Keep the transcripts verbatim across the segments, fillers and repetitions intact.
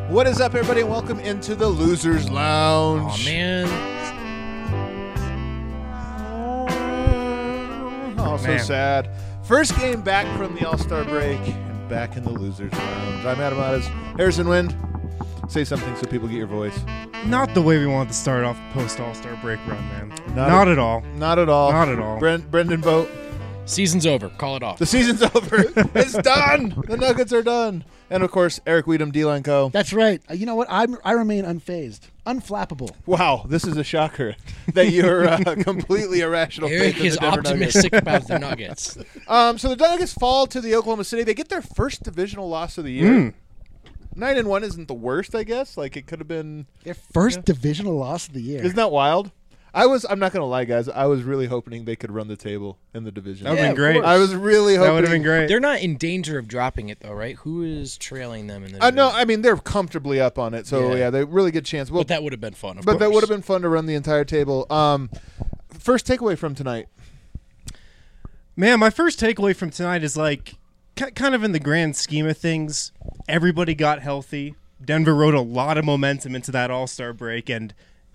What is up, everybody, and welcome into the Losers Lounge. Aw, man. Oh, so Man. sad. First game back from the All-Star break and back in the Losers Lounge. I'm Adam Ottes. Harrison Wind, say something so people get your voice. Not the way we wanted to start off the post All-Star break run, man. Not Not, a- at all. Not at all. Not at all. Bren- Brendan Vogt, Season's over. Call it off. the season's over. It's done. The Nuggets are done. And, of course, Eric Weedham, D-Line Co. That's right. Uh, You know what? I'm, I remain unfazed, unflappable. Wow, this is a shocker that you're uh, completely irrational. Eric faith in is the Denver Nuggets. optimistic about the Nuggets. Um, so the Nuggets fall to the Oklahoma City. They get their first divisional loss of the year. Mm. Nine and one isn't the worst, I guess. Like it could have been. Their first divisional loss of the year. Isn't that wild? I was. I'm not gonna lie, guys. I was really hoping they could run the table in the division. That would Yeah, have of been great. course. I was really hoping. That would have been great. They're not in danger of dropping it, though, right? Who is trailing them in the Uh, no, division? I mean they're comfortably up on it. So yeah, Yeah. they really good chance. Well, But that would have been fun, of but course. that would have been fun to run the entire table. Um, first takeaway from tonight. Man, my first takeaway from tonight is like, ki- kind of in the grand scheme of things, everybody got healthy. Denver rode a lot of momentum into that All-Star break, and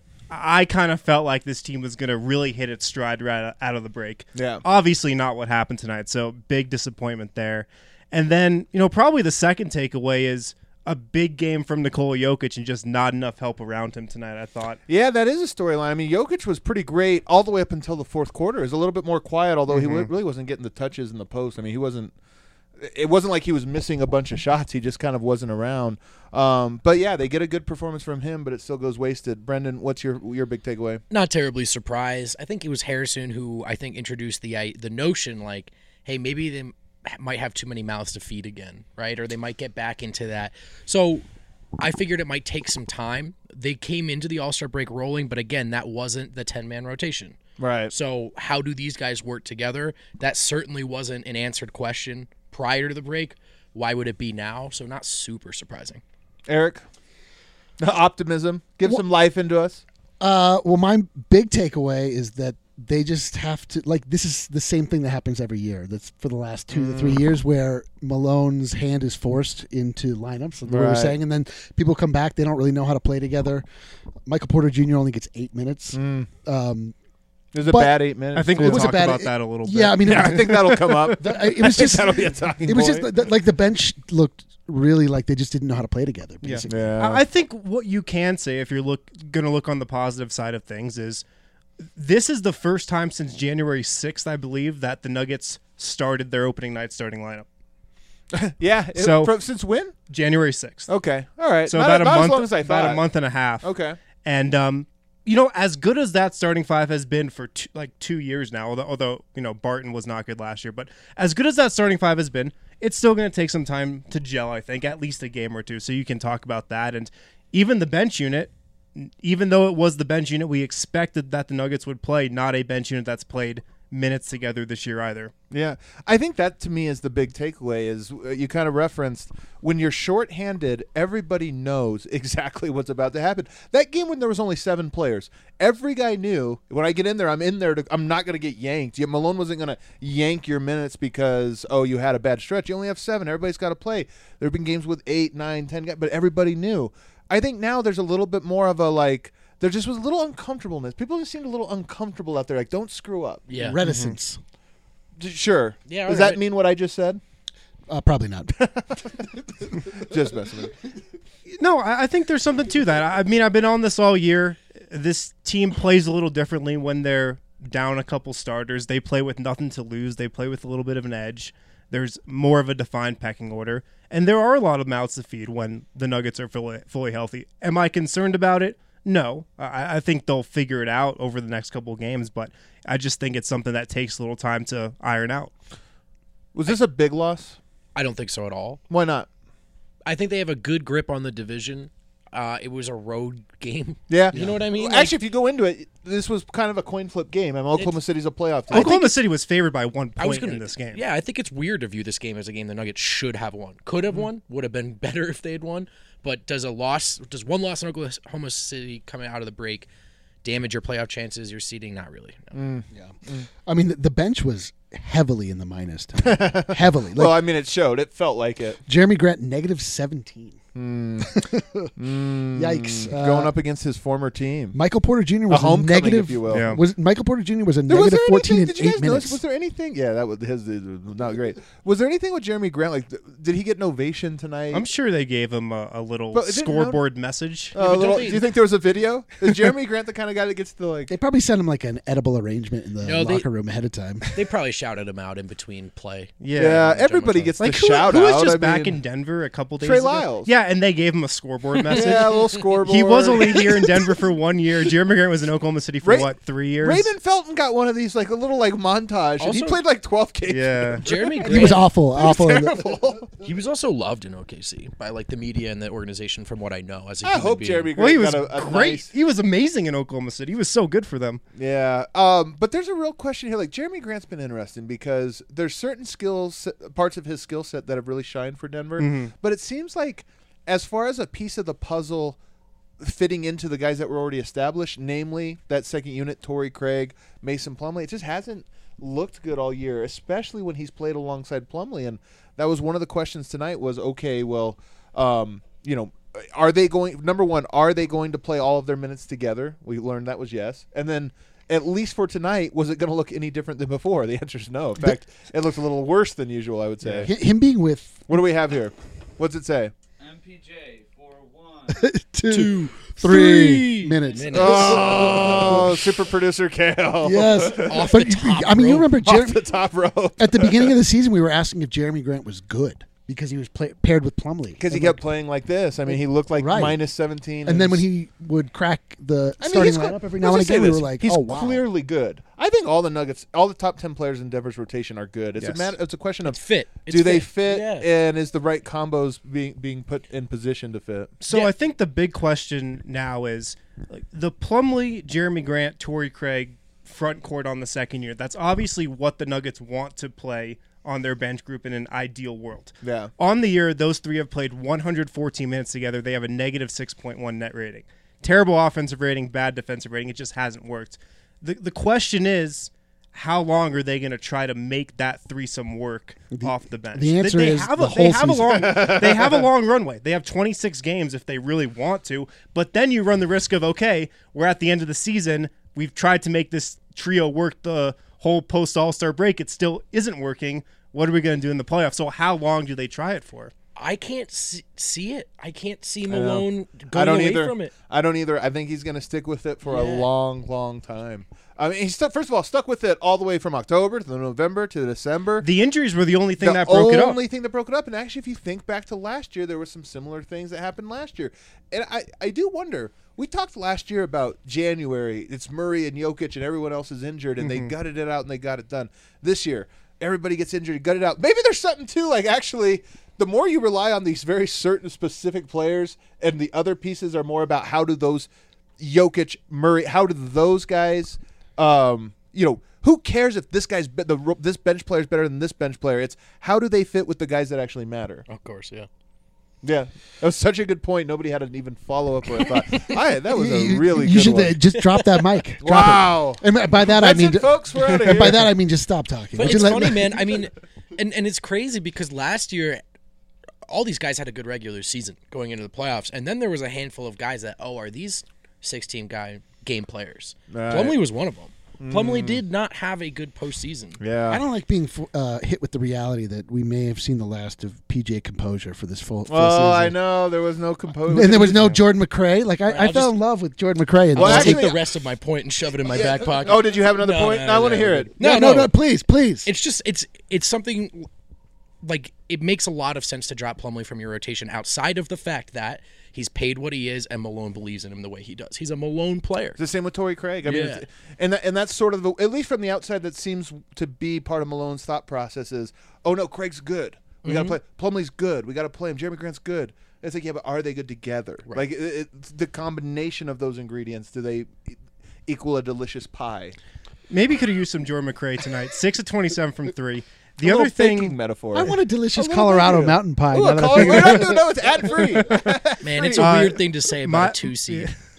I kind of felt like this team was going to really hit its stride right out of the break. Yeah. Obviously not what happened tonight, so big disappointment there. And then, you know, probably the second takeaway is a big game from Nikola Jokic and just not enough help around him tonight, I thought. Yeah, that is a storyline. I mean, Jokic was pretty great all the way up until the fourth quarter. He was a little bit more quiet, although he w- really wasn't getting the touches in the post. I mean, he wasn't. It wasn't like he was missing a bunch of shots. He just kind of wasn't around. Um, but yeah, they get a good performance from him, but it still goes wasted. Brendan, what's your your big takeaway? Not terribly surprised. I think it was Harrison who I think introduced the i- the notion like, hey, maybe they m- might have too many mouths to feed again, right? Or they might get back into that. So I figured it might take some time. They came into the All-Star break rolling, but again, that wasn't the ten-man rotation. Right. So how do these guys work together? That certainly wasn't an answered question prior to the break. Why would it be now? So not super surprising. Eric, optimism. Give Well- some life into us. Uh, well, my big takeaway is that they just have to, like, this is the same thing that happens every year. That's for the last two to three years where Malone's hand is forced into lineups, like we were Right. saying, and then people come back. They don't really know how to play together. Michael Porter Junior only gets eight minutes. Um, It was a But- bad eight minutes. I think too. we'll was a talk bad- about that a little bit. yeah, I mean, it Yeah, was, I think that'll come up. the- it was just that'll be a talking it was point. just the, like the bench looked really like they just didn't know how to play together. Yeah. Basically. yeah. I I think what you can say, if you're look going to look on the positive side of things, is this is the first time since January sixth, I believe, that the Nuggets started their opening night starting lineup. yeah. It, So- from, since when? January sixth. Okay. All right. So not, about a not month, as long as I about thought. a month and a half. Okay. And um, you know, as good as that starting five has been for two, like two years now, although, although you know Barton was not good last year, but as good as that starting five has been, it's still going to take some time to gel. I think at least a game or two, so you can talk about that. And even the bench unit, even though it was the bench unit we expected that the Nuggets would play, not a bench unit that's played minutes together this year either. Yeah, I think that to me is the big takeaway. Is uh, you kind of referenced when you're shorthanded, everybody knows exactly what's about to happen. That game when there was only seven players, every guy knew when I get in there, I'm in there. To, I'm not going to get yanked. Yeah, Malone wasn't going to yank your minutes because oh you had a bad stretch. You only have seven. Everybody's got to play. There have been games with eight, nine, ten guys, but everybody knew. I think now there's a little bit more of a like. There just was a little uncomfortableness. People just seemed a little uncomfortable out there. Like, don't screw up. Yeah. Reticence. D- Sure. Yeah, Does all that right. mean what I just said? Uh, probably not. Just messing with you. No, I I think there's something to that. I mean, I've been on this all year. This team plays a little differently when they're down a couple starters. They play with nothing to lose. They play with a little bit of an edge. There's more of a defined pecking order. And there are a lot of mouths to feed when the Nuggets are fully, fully healthy. Am I concerned about it? No. I, I think they'll figure it out over the next couple of games, but I just think it's something that takes a little time to iron out. Was this a big loss? I don't think so at all. Why not? I think they have a good grip on the division. Uh, it was a road game. Yeah. You know what I mean? Well, actually, if you go into it, this was kind of a coin flip game. I mean, Oklahoma City's a playoff team. Oklahoma City was favored by one I was point gonna, in this game. Yeah, I think it's weird to view this game as a game the Nuggets should have won. Could have won. Would have been better if they had won. But does a loss, does one loss in Oklahoma City coming out of the break damage your playoff chances, your seeding? Not really. No. Yeah. I mean, the, the bench was heavily in the minus. tonight. heavily. Like, Well, I mean, it showed. It felt like it. Jeremy Grant, negative seventeen. Mm. Yikes. Uh, Going up against his former team. Michael Porter Junior was A homecoming, negative. if you will. Yeah. Was Michael Porter Junior was a There- was negative there fourteen anything- in did you eight guys minutes. notice? Was there anything? Yeah, that was his. It was not great. Was there anything with Jeremy Grant? Like, th- did he get an ovation tonight? I'm sure they gave him a, a little But it didn't scoreboard message. Uh, but a little- don't they- do you think there was a video? Is Jeremy Grant the kind of guy that gets to like? They probably sent him like an edible arrangement in the No, they- locker room ahead of time. They probably shouted him out in between play. Yeah. Yeah, everybody General gets Like the who, shout who was out. just I back mean, in Denver a couple days Trey ago? Lyles. Yeah, and they gave him a scoreboard message. Yeah, a little scoreboard. He was only here in Denver for one year. Jeremy Grant was in Oklahoma City for Ray- what, three years? Raymond Felton got one of these like a little like montage, and he Also- played like twelve games. Yeah. Jeremy Grant. He was awful, awful. in the- Terrible. He was also loved in O K C by like the media and the organization, from what I know. As a I human hope being. Jeremy Grant Well, he was got a, a great. nice. He was amazing in Oklahoma City. He was so good for them. Yeah, um, but there's a real question here. Like Jeremy Grant's been interesting because there's certain skills, parts of his skill set that have really shined for Denver. Mm-hmm. But it seems like, as far as a piece of the puzzle fitting into the guys that were already established, namely that second unit, Torrey Craig, Mason Plumlee, it just hasn't looked good all year, especially when he's played alongside Plumlee. And that was one of the questions tonight. Was okay, well, um, you know. Are they going? Number one, are they going to play all of their minutes together? We learned that was yes, and then at least for tonight, was it going to look any different than before? The answer is no. In fact, it looked a little worse than usual, I would say. Hi- Him being with What do we have here? What's it say? M P J for one. two, Two, three three minutes. minutes. Oh, super producer Kale. Yes, Off but the top I mean, you rope. remember Off Jer- the top rope. at the beginning of the season, we were asking if Jeremy Grant was good because he was play- paired with Plumlee. Because he And, kept like, playing like this. I mean, he looked like Right. minus seventeen. and then when he would crack the I mean, starting he's cl- lineup every let's now and just say again, we this. were like, he's "Oh wow!" clearly good. I think all the Nuggets, all the top ten players in Denver's rotation are good. It's Yes. a matter. It's a question of It's fit. It's do they fit. fit, Yeah. and is the right combos being being put in position to fit? So Yeah. I think the big question now is like the Plumlee, Jeremy Grant, Torrey Craig front court on the second year. That's obviously what the Nuggets want to play on their bench group in an ideal world. Yeah. On the year, those three have played one hundred fourteen minutes together. They have a negative six point one net rating. Terrible offensive rating, bad defensive rating. It just hasn't worked. The the question is, how long are they going to try to make that threesome work off the bench? the answer they, they is have the a, they whole have a long season. they have a long runway. They have twenty-six games if they really want to, but then you run the risk of, okay, we're at the end of the season. We've tried to make this trio work the whole post All-Star break. It still isn't working. What are we going to do in the playoffs? So how long do they try it for? I can't see, see it. I can't see know. Malone I going don't away either. from it. I don't either. I think he's going to stick with it for a Yeah. long, long time. I mean, he's stuck, first of all stuck with it all the way from October to November to December. The injuries were the only thing the that broke it up. only thing that broke it up. And actually, if you think back to last year, there were some similar things that happened last year. And I, I do wonder. We talked last year about January. It's Murray and Jokic, and everyone else is injured, and Mm-hmm. they gutted it out and they got it done. This year, everybody gets injured, gut it out. Maybe there's something too. Like actually, the more you rely on these very certain specific players, and the other pieces are more about how do those Jokic, Murray, how do those guys, um, you know, who cares if this guy's be- the ro- this bench player is better than this bench player? It's how do they fit with the guys that actually matter. Of course, yeah. Yeah, that was such a good point. Nobody had an even follow up or a thought. I, that was a You- really you good should one. uh, just drop that mic. Drop Wow. it. And by that That's I mean, it, folks. We're out of and by here. that I mean just stop talking. But Would it's you let- funny, man. I mean, and, and it's crazy because last year, all these guys had a good regular season going into the playoffs, and then there was a handful of guys that, oh, are these sixteen guy game players? Right. Plumlee was one of them. Plumlee did not have a good postseason. Yeah. I don't like being uh, hit with the reality that we may have seen the last of P J Composure for this full, full Oh, season. I know. There was no composure. And there was no Jordan McRae. Like I, I I'll fell just- in love with Jordan McRae. In Well, I'll this actually- take the rest of my point and shove it in my Yeah. back pocket. Oh, did you have another No, point? no, No, I want to no, hear no. it. No, no, no, no. no, please, please. It's just it's it's something like it makes a lot of sense to drop Plumlee from your rotation outside of the fact that he's paid what he is and Malone believes in him the way he does. He's a Malone player. It's the same with Torrey Craig. I mean, Yeah. it's, and that, and that's sort of the at least from the outside that seems to be part of Malone's thought process is, oh no, Craig's good. We Mm-hmm. got to play. Plumlee's good. We got to play him. Jeremy Grant's good. It's like, yeah, but are they good together? Right. Like it, it's the combination of those ingredients. Do they e- equal a delicious pie? Maybe could have used some Jordan McRae tonight. Six of twenty-seven from three. The A other little baking thing, metaphor. I want a delicious A little Colorado bit. mountain pie. Ooh, now a that I Colorado- figure we're it not out. doing no, it's ad free. Man, it's a Uh, weird thing to say about my- a two seed.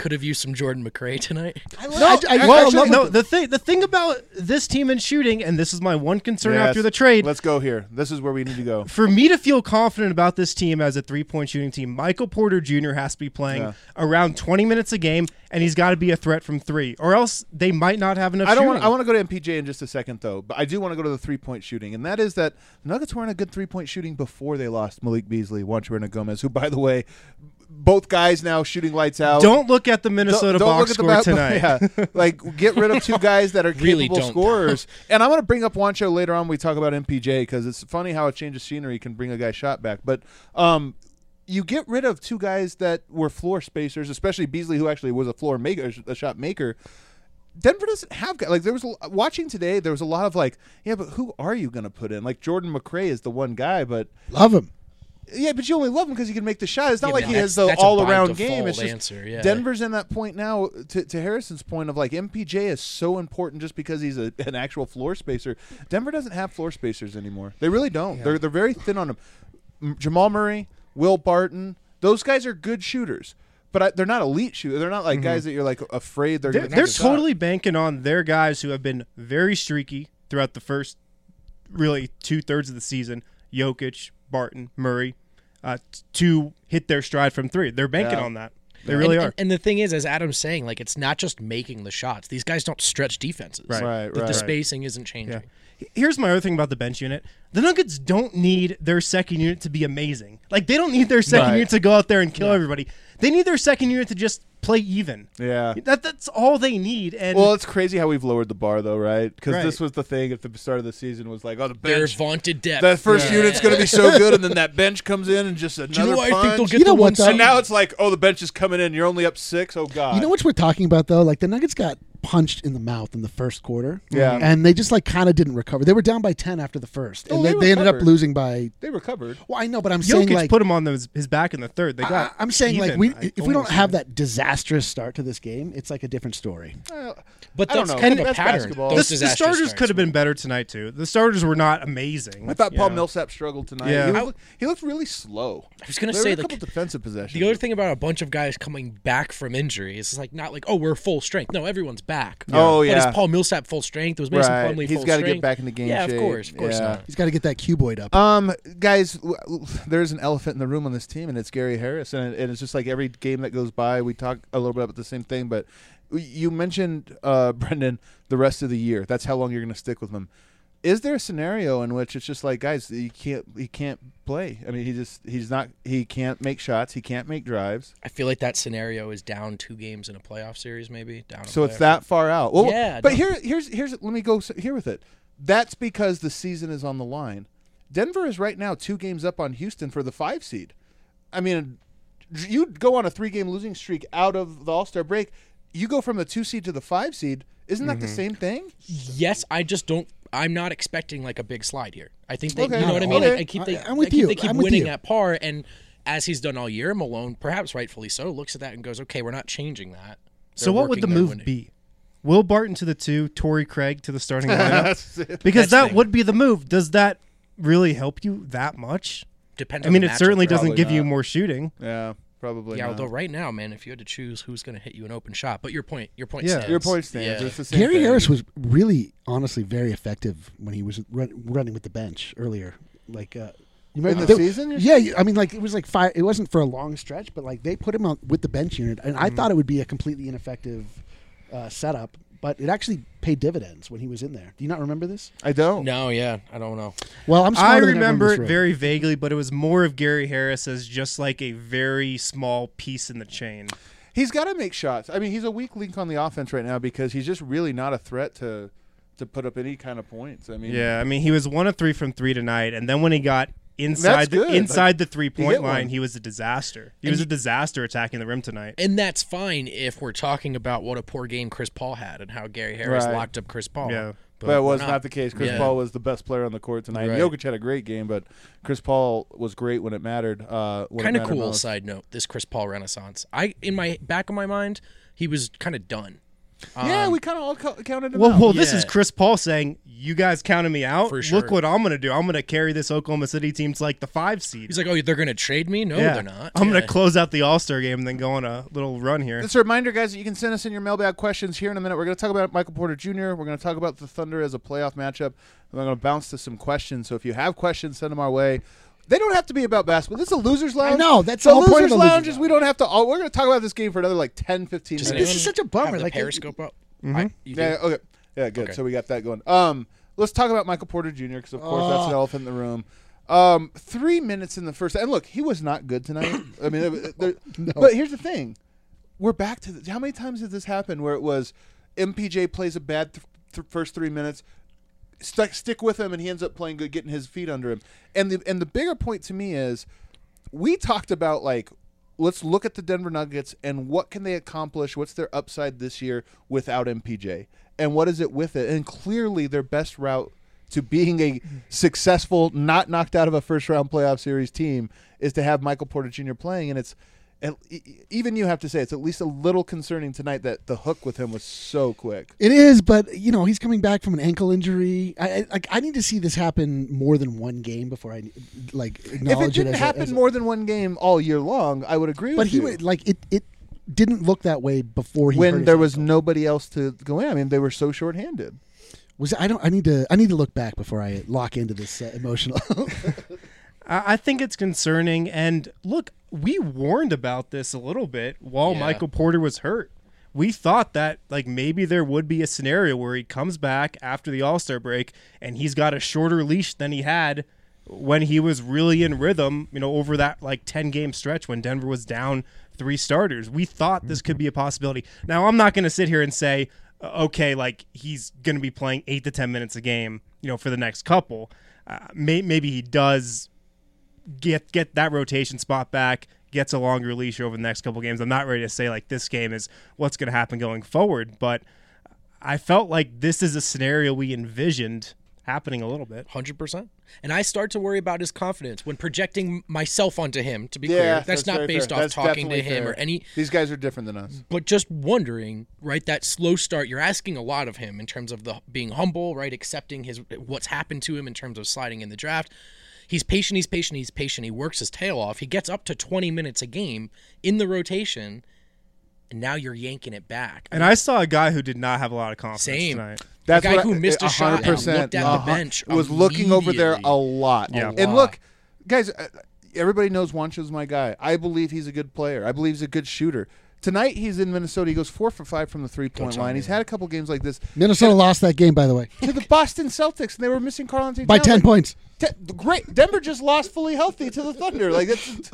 could have used some Jordan McRae tonight. I, No, I- I- Well, actually- no, the thing the thing about this team and shooting, and this is my one concern Yes. after the trade. Let's go here. This is where we need to go. For me to feel confident about this team as a three-point shooting team, Michael Porter Junior has to be playing Yeah. around twenty minutes a game, and he's got to be a threat from three, or else they might not have enough I don't shooting. want. I want to go to M P J in just a second, though. But I do want to go to the three-point shooting, and that is that the Nuggets weren't a good three-point shooting before they lost Malik Beasley, Juancho and Gomez, who, by the way, both guys now shooting lights out. Don't look at the Don't- Minnesota don't box look score at the ba- tonight. Yeah, like get rid of two guys that are Really capable don't. scorers. And I'm going to bring up Juancho later on when we talk about M P J because it's funny how a change of scenery can bring a guy's shot back. But um, you get rid of two guys that were floor spacers, especially Beasley, who actually was a floor maker, a shot maker. Denver doesn't have guys. Like there was a, watching today, there was a lot of like, yeah, but who are you going to put in? Like Jordan McRae is the one guy, but Love him. yeah, but you only love him because he can make the shot. It's not Yeah, like but he has that's- the that's a all-around by game. It's default just answer, yeah. Denver's in that point now. To, to Harrison's point of like M P J is so important just because he's a, an actual floor spacer. Denver doesn't have floor spacers anymore. They really don't. They're they're very thin on them. M- Jamal Murray, Will Barton, those guys are good shooters, but I, they're not elite shooters. They're not like guys that you're like afraid they're They're, going to. they're totally banking on their guys who have been very streaky throughout the first, really two thirds of the season. Jokic, Barton, Murray, uh, t- to hit their stride from three. They're banking Yeah. on that. They really and, are. And, and the thing is, as Adam's saying, like it's not just making the shots. These guys don't stretch defenses. Right. Right, The, right. the spacing isn't changing. Yeah. Here's my other thing about the bench unit. The Nuggets don't need their second unit to be amazing. Like, they don't need their second Right. unit to go out there and kill everybody. They need their second unit to just play even. Yeah. That That's all they need. And Well, it's crazy how we've lowered the bar, though, right? Because Right. this was the thing at the start of the season was like, oh, the Their bench. vaunted depth. That first Yeah. unit's going to be so good, and then that bench comes in and just another Do you know why I think they'll punch. get You know the what, one though? seed? And now it's like, oh, the bench is coming in. You're only up six. Oh God. You know what we're talking about though? Like the Nuggets got punched in the mouth in the first quarter. Yeah. And they just like kind of didn't recover. They were down by ten after the first. Oh, And they they, they ended up recovered. losing by They recovered. Well, I know, but I'm saying Jokic like put him on those, his back in the third. They got I, I'm saying like even, we I if we don't almost have said. that disastrous start to this game, it's like a different story. Uh, But I don't that's know. kind of a That's pattern. basketball. Those The, the disastrous starters starts, could have been man. better tonight, too. The starters were not amazing. I thought you Paul know. Millsap struggled tonight. Yeah. He, I- looked, he looked really slow. I was gonna There say, were a like, couple defensive possessions. the other thing about a bunch of guys coming back from injury is it's like not like, oh, we're full strength. No, everyone's back. Oh, But yeah. is Paul Millsap full strength? Was Mason Right. Plumlee He's full gotta get strength? back into game Yeah, shape. of course, of course Yeah. not. He's got to get that cuboid up. Um, guys, w- w- there's an elephant in the room on this team, and it's Gary Harris. And, it, and it's just like every game that goes by, we talk a little bit about the same thing. But you mentioned, uh, Brendan, the rest of the year. That's how long you're going to stick with him. Is there a scenario in which it's just like, guys, he can't, he can't play? I mean, he just, he's not, he can't make shots, he can't make drives. I feel like that scenario is down two games in a playoff series, maybe down. a So it's playoff- that far out. Well, Yeah, but no. here, here's, here's. Let me go s- here with it. That's because the season is on the line. Denver is right now two games up on Houston for the five seed. I mean, you go on a three-game losing streak out of the All-Star break. You go from the two seed to the five seed. Isn't that the Mm-hmm. same thing? Yes, I just don't. I'm not expecting like a big slide here. I think they, Okay. you know what I mean. Okay. I, I keep they, I- I'm with I keep, you. They keep I'm with winning you. at par, and as he's done all year, Malone, perhaps rightfully so, looks at that and goes, "Okay, we're not changing that." So They're what would the working, they're move winning. be? Will Barton to the two, Torrey Craig to the starting lineup? That's it. Because That's the that thing. would be the move. Does that really help you that much? Depends. I on mean, the it matchup, certainly right? doesn't Probably give you not. more shooting. Yeah, probably. Yeah, not. although right now, man, if you had to choose who's going to hit you an open shot, but your point, your point Yeah. stands. Your point stands. Yeah. It's the same Gary thing. Harris was really, honestly, very effective when he was run, running with the bench earlier. Like, uh, you in remember the they- season. you're Yeah, you- I mean, like it was like five. It wasn't for a long stretch, but like they put him on with the bench unit, and I thought it would be a completely ineffective uh, setup, but it actually paid dividends when he was in there. Do you not remember this? I don't. No, yeah, I don't know. Well, I'm. I smarter than everyone in remember this it room. very vaguely, but it was more of Gary Harris as just like a very small piece in the chain. He's got to make shots. I mean, he's a weak link on the offense right now because he's just really not a threat to to put up any kind of points. I mean, Yeah, I mean, he was one of three from three tonight, and then when he got inside the, good. inside the three hit point one. line, he was a disaster. He And was a you- disaster attacking the rim tonight. And that's fine if we're talking about what a poor game Chris Paul had and how Gary Harris Right. locked up Chris Paul. Yeah. But it we're was not. the case. Chris Yeah. Paul was the best player on the court tonight. Right. Jokic had a great game, but Chris Paul was great when it mattered. Uh, when it Kind of mattered cool. most. Side note: this Chris Paul renaissance. I, in my back of my mind, he was kind of done. yeah, Um, we kind of all co- counted him Well, out. well, this Yeah. is Chris Paul saying, "You guys counted me out. For sure. Look what I'm going to do. I'm going to carry this Oklahoma City team to like the five seed. He's like, oh, they're going to trade me? No, yeah. they're not. I'm going Yeah. to close out the All Star game and then go on a little run here." Just a reminder, guys, that you can send us in your mailbag questions here in a minute. We're going to talk about Michael Porter Junior We're going to talk about the Thunder as a playoff matchup. And we're going to bounce to some questions. So if you have questions, send them our way. They don't have to be about basketball. This is a loser's lounge. know, that's the the whole point loser's of the lounge. Losers Is we don't have to. All, we're going to talk about this game for another like ten, fifteen Does minutes. This is anyone such a bummer, have the like, Periscope up? Mhm. I, you do? Yeah. Okay. Yeah. Good. Okay. So we got that going. Um, let's talk about Michael Porter Junior because of course Oh. that's an elephant in the room. Um, three minutes in the first, and look, he was not good tonight. I mean, there- there- but here's the thing: we're back to the, how many times did this happen where it was M P J plays a bad th- th- first three minutes, st- stick with him, and he ends up playing good, getting his feet under him. And the and the bigger point to me is, we talked about like, let's look at the Denver Nuggets and what can they accomplish? What's their upside this year without M P J? And what is it with it? And clearly their best route to being a successful, not knocked out of a first-round playoff series team is to have Michael Porter Junior playing. And it's and even you have to say it's at least a little concerning tonight that the hook with him was so quick. It is, but you know he's coming back from an ankle injury. I I, like, I need to see this happen more than one game before I like If acknowledge it didn't as a- happen as a- more than one game all year long, I would agree But with he you. would like it. It didn't look that way before he hurt when his there was ankle. nobody else to go in. I mean, they were so shorthanded. Was I don't I need to I need to look back before I lock into this uh, emotional. I I think it's concerning. And look, we warned about this a little bit while Yeah. Michael Porter was hurt. We thought that like maybe there would be a scenario where he comes back after the All-Star break and he's got a shorter leash than he had when he was really in rhythm, you know, over that like ten game stretch when Denver was down three starters. We thought this could be a possibility. Now, I'm not going to sit here and say, uh, okay, like he's going to be playing eight to ten minutes a game, you know, for the next couple. Uh, may- maybe he does get get that rotation spot back, gets a longer leash over the next couple games. I'm not ready to say like this game is what's going to happen going forward, but I felt like this is a scenario we envisioned happening a little bit. one hundred percent. And I start to worry about his confidence when projecting myself onto him, to be Yeah, clear. that's That's, not very based fair. off That's talking to definitely him fair. or any, These guys are different than us. but just wondering, right, that slow start, you're asking a lot of him in terms of the being humble, right, accepting his what's happened to him in terms of sliding in the draft. He's patient, he's patient, he's patient. He works his tail off. He gets up to twenty minutes a game in the rotation, and now you're yanking it back. And I saw a guy who did not have a lot of confidence Same. tonight. The guy what who I- missed a shot and 100%, looked at the uh-huh, bench was looking over there a immediately. lot. Yeah. And lot. look, guys, uh, everybody knows Juancho's my guy. I believe he's a good player. I believe he's a good shooter. Tonight he's in Minnesota. He goes four for five from the three-point Coach line. Army. He's had a couple games like this Minnesota lost that game, by the way, to the Boston Celtics, and they were missing Karl Anthony by Towns. ten Like, points. Te- great. Denver just lost fully healthy to the Thunder. Like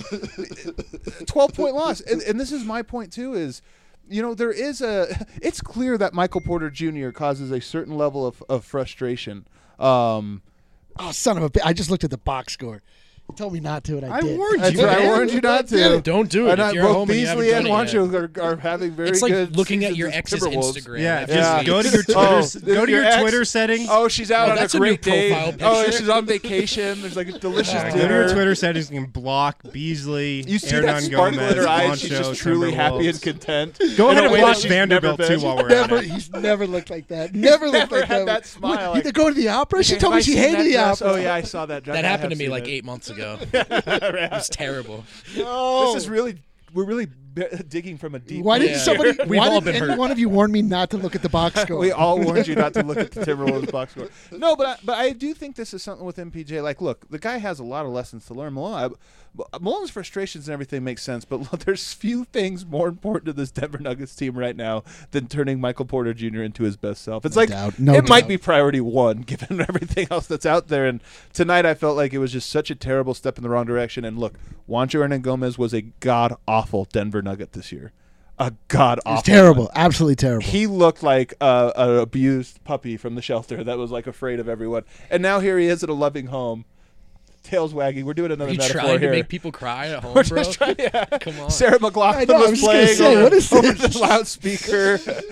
that's twelve point loss. And, and this is my point too. Is you know there is a. It's clear that Michael Porter Junior causes a certain level of, of frustration. Um, Oh, son of a bitch! I just looked at the box score. You told me not to, and I, I did. warned that's you, right, I man. warned you not to. Don't do it. And If I- you're a both home and you haven't Beasley and done it yet. Wancho are, are having very It's like good. looking at seasons your as ex's Timberwolves. Instagram. Yeah, every just Yeah. week. go to your Twitter. Oh, go to your your ex? Twitter settings. Oh, she's out Oh, on a that's a new great day. profile Oh, picture. she's on vacation. There's like a delicious Uh, go dinner. to your Twitter settings and block Beasley. You see Hernan that sparkle Gomez, in her eyes. She's Juancho, just truly happy and Timberwolves. content. Go in ahead a and way block that she's Vanderbilt never too been. while we're Never, at it. he's never looked like that. Never looked never like had that. that smile, What, like- you go to the opera? She Have told I me she seen hated that the dress? opera. Oh yeah, I saw that. That I happened to have me seen like it. eight months ago. It was terrible. Oh. This is really we're really b- digging from a deep. Why did Yeah. somebody? We've why all did been any hurt. one of you warn me not to look at the box score? We all warned you not to look at the Timberwolves box score. No, but I, but I do think this is something with M P J. Like, look, the guy has a lot of lessons to learn. Malone, I, Malone's frustrations and everything makes sense, but look, there's few things more important to this Denver Nuggets team right now than turning Michael Porter Junior into his best self. It's No like doubt. No it might doubt. be priority one given everything else that's out there. And tonight I felt like it was just such a terrible step in the wrong direction. And look, Juancho Hernan Gomez was a god awful Denver Nugget this year. A god awful. It's terrible. Absolutely terrible. He looked like a, an abused puppy from the shelter that was like afraid of everyone. And now here he is at a loving home, tails wagging. We're doing Are another you metaphor trying here. to make people cry at home, We're bro? just trying. Yeah. Come on. Sarah McLaughlin I know, I was was just gonna playing say, over, what is over this? the loudspeaker.